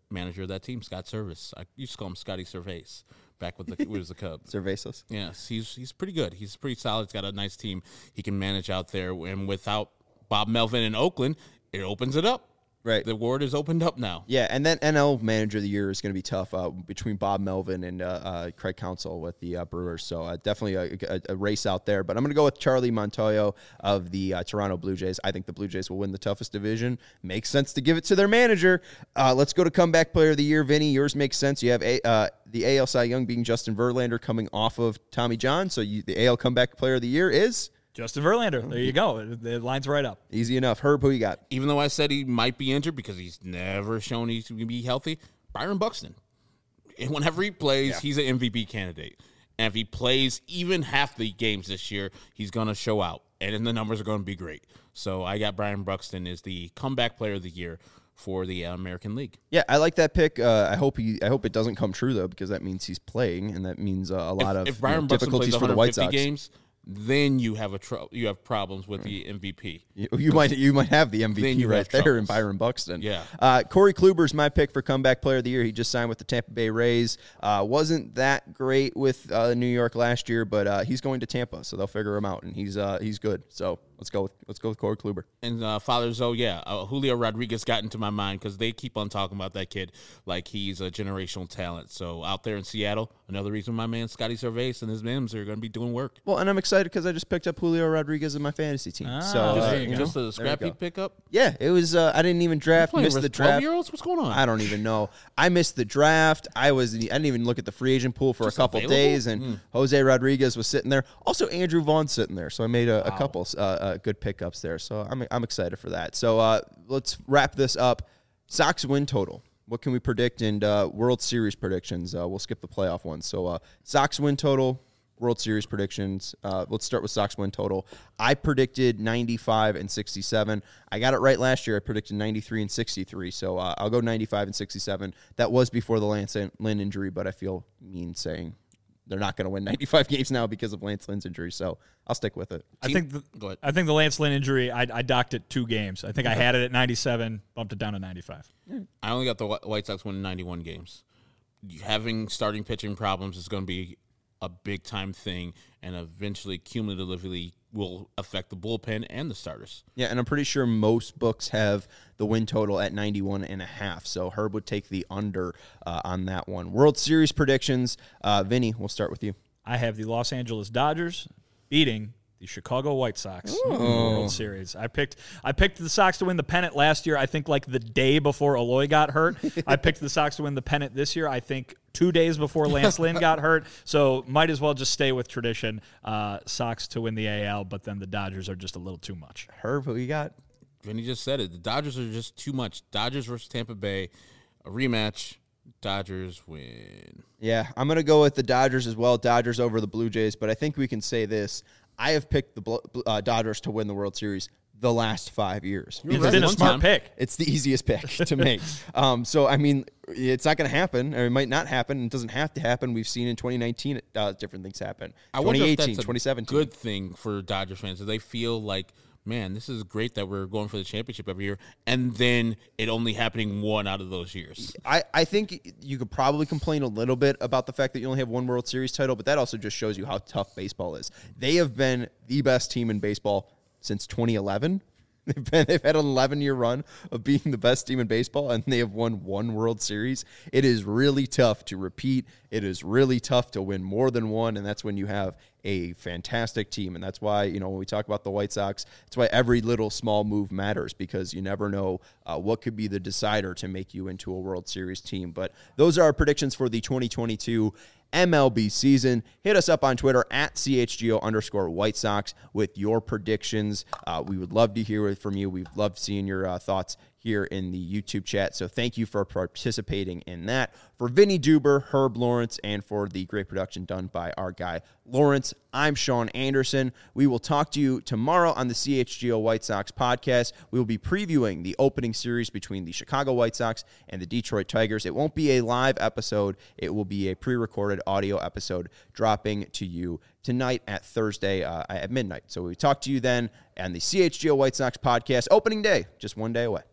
manager of that team, Scott Service. I used to call him Scotty Cervase back with the with the Cubs. Cervasos. Yes, he's he's pretty good. He's pretty solid. He's got a nice team he can manage out there. And without Bob Melvin in Oakland, it opens it up. Right. The award is opened up now. Yeah, and then N L Manager of the Year is going to be tough uh, between Bob Melvin and uh, uh, Craig Counsell with the uh, Brewers. So uh, definitely a, a, a race out there. But I'm going to go with Charlie Montoyo of the uh, Toronto Blue Jays. I think the Blue Jays will win the toughest division. Makes sense to give it to their manager. Uh, let's go to Comeback Player of the Year. Vinny, yours makes sense. You have a, uh, the A L Cy Young being Justin Verlander coming off of Tommy John. So you, the A L Comeback Player of the Year is Justin Verlander. There you go. It, it lines right up. easy enough. Herb, who you got? Even though I said he might be injured because he's never shown he's going to be healthy, Byron Buxton. And whenever he plays, yeah. he's an M V P candidate. And if he plays even half the games this year, he's going to show out. And then the numbers are going to be great. So I got Byron Buxton as the Comeback Player of the Year for the American League. Yeah, I like that pick. Uh, I hope he. I hope it doesn't come true though, because that means he's playing, and that means uh, a lot if, of if Byron you know, Buxton difficulties plays for the White Sox. games, then you have a tr- you have problems with the M V P. You, you might you might have the M V P right there in Byron Buxton. Yeah. Uh, Corey Kluber's my pick for Comeback Player of the Year. He just signed with the Tampa Bay Rays. Uh, wasn't that great with uh, New York last year, but uh, he's going to Tampa, so they'll figure him out, and he's uh, he's good. So let's go with let's go with Corey Kluber. And uh, Father Zoe, yeah, uh, Julio Rodriguez got into my mind because they keep on talking about that kid like he's a generational talent. So out there in Seattle, another reason my man Scotty Cervase and his Mims are going to be doing work. Well, and I'm excited because I just picked up Julio Rodriguez in my fantasy team. Ah, so Just, uh, there you you just know, a scrappy pickup? yeah, it was. Uh, I didn't even draft. Playing Missed with the draft. twelve-year-olds? What's going on? I don't even know. I missed the draft. I was. I didn't even look at the free agent pool for Just a couple available? days, and Mm. Jose Rodriguez was sitting there. Also, Andrew Vaughn's sitting there. So I made a, a couple uh, uh, good pickups there. So I'm I'm excited for that. So uh, let's wrap this up. Sox win total. What can we predict? And uh, World Series predictions. Uh, we'll skip the playoff ones. So uh, Sox win total. World Series predictions. Uh, let's start with Sox win total. I predicted ninety-five and sixty-seven. I got it right last year. I predicted ninety-three and sixty-three. So uh, I'll go ninety-five and sixty-seven. That was before the Lance Lynn injury, but I feel mean saying they're not going to win ninety-five games now because of Lance Lynn's injury. So I'll stick with it. I think the, Go ahead. I think the Lance Lynn injury, I, I docked it two games. I think I had it at ninety-seven, bumped it down to ninety-five. I only got the Wh- White Sox winning ninety-one games. Having starting pitching problems is going to be a big-time thing, and eventually, cumulatively, will affect the bullpen and the starters. Yeah, and I'm pretty sure most books have the win total at ninety-one and a half. So Herb would take the under uh, on that one. World Series predictions. Uh, Vinny, we'll start with you. I have the Los Angeles Dodgers beating the Chicago White Sox in the World Series. I picked I picked the Sox to win the pennant last year, I think like the day before Eloy got hurt. I picked the Sox to win the pennant this year, I think two days before Lance Lynn got hurt. So might as well just stay with tradition. Uh, Sox to win the A L, but then the Dodgers are just a little too much. Herb, who you got? Vinny just said it. The Dodgers are just too much. Dodgers versus Tampa Bay, a rematch. Dodgers win. Yeah, I'm going to go with the Dodgers as well. Dodgers over the Blue Jays, but I think we can say this. I have picked the uh, Dodgers to win the World Series the last five years. It's right been a one smart time. pick. It's the easiest pick to make. um, so, I mean, it's not going to happen, or it might not happen. It doesn't have to happen. We've seen in twenty nineteen uh, different things happen. I wonder if twenty eighteen, that's a twenty seventeen. good thing for Dodgers fans. Do they feel like, man, this is great that we're going for the championship every year, and then it only happening one out of those years? I, I think you could probably complain a little bit about the fact that you only have one World Series title, but that also just shows you how tough baseball is. They have been the best team in baseball since twenty eleven. They've been they've had an eleven-year run of being the best team in baseball, and they have won one World Series. It is really tough to repeat. It is really tough to win more than one, and that's when you have a fantastic team. And that's why, you know, when we talk about the White Sox, that's why every little small move matters, because you never know uh, what could be the decider to make you into a World Series team. But those are our predictions for the twenty twenty-two M L B season. Hit us up on Twitter at C H G O underscore White Sox with your predictions. Uh, we would love to hear it from you. We've loved seeing your uh, thoughts here in the YouTube chat. So thank you for participating in that. For Vinny Duber, Herb Lawrence, and for the great production done by our guy Lawrence, I'm Sean Anderson. We will talk to you tomorrow on the C H G O White Sox podcast. We will be previewing the opening series between the Chicago White Sox and the Detroit Tigers. It won't be a live episode. It will be a pre-recorded audio episode dropping to you tonight at Thursday uh, at midnight. So we talk to you then on the C H G O White Sox podcast, opening day, just one day away.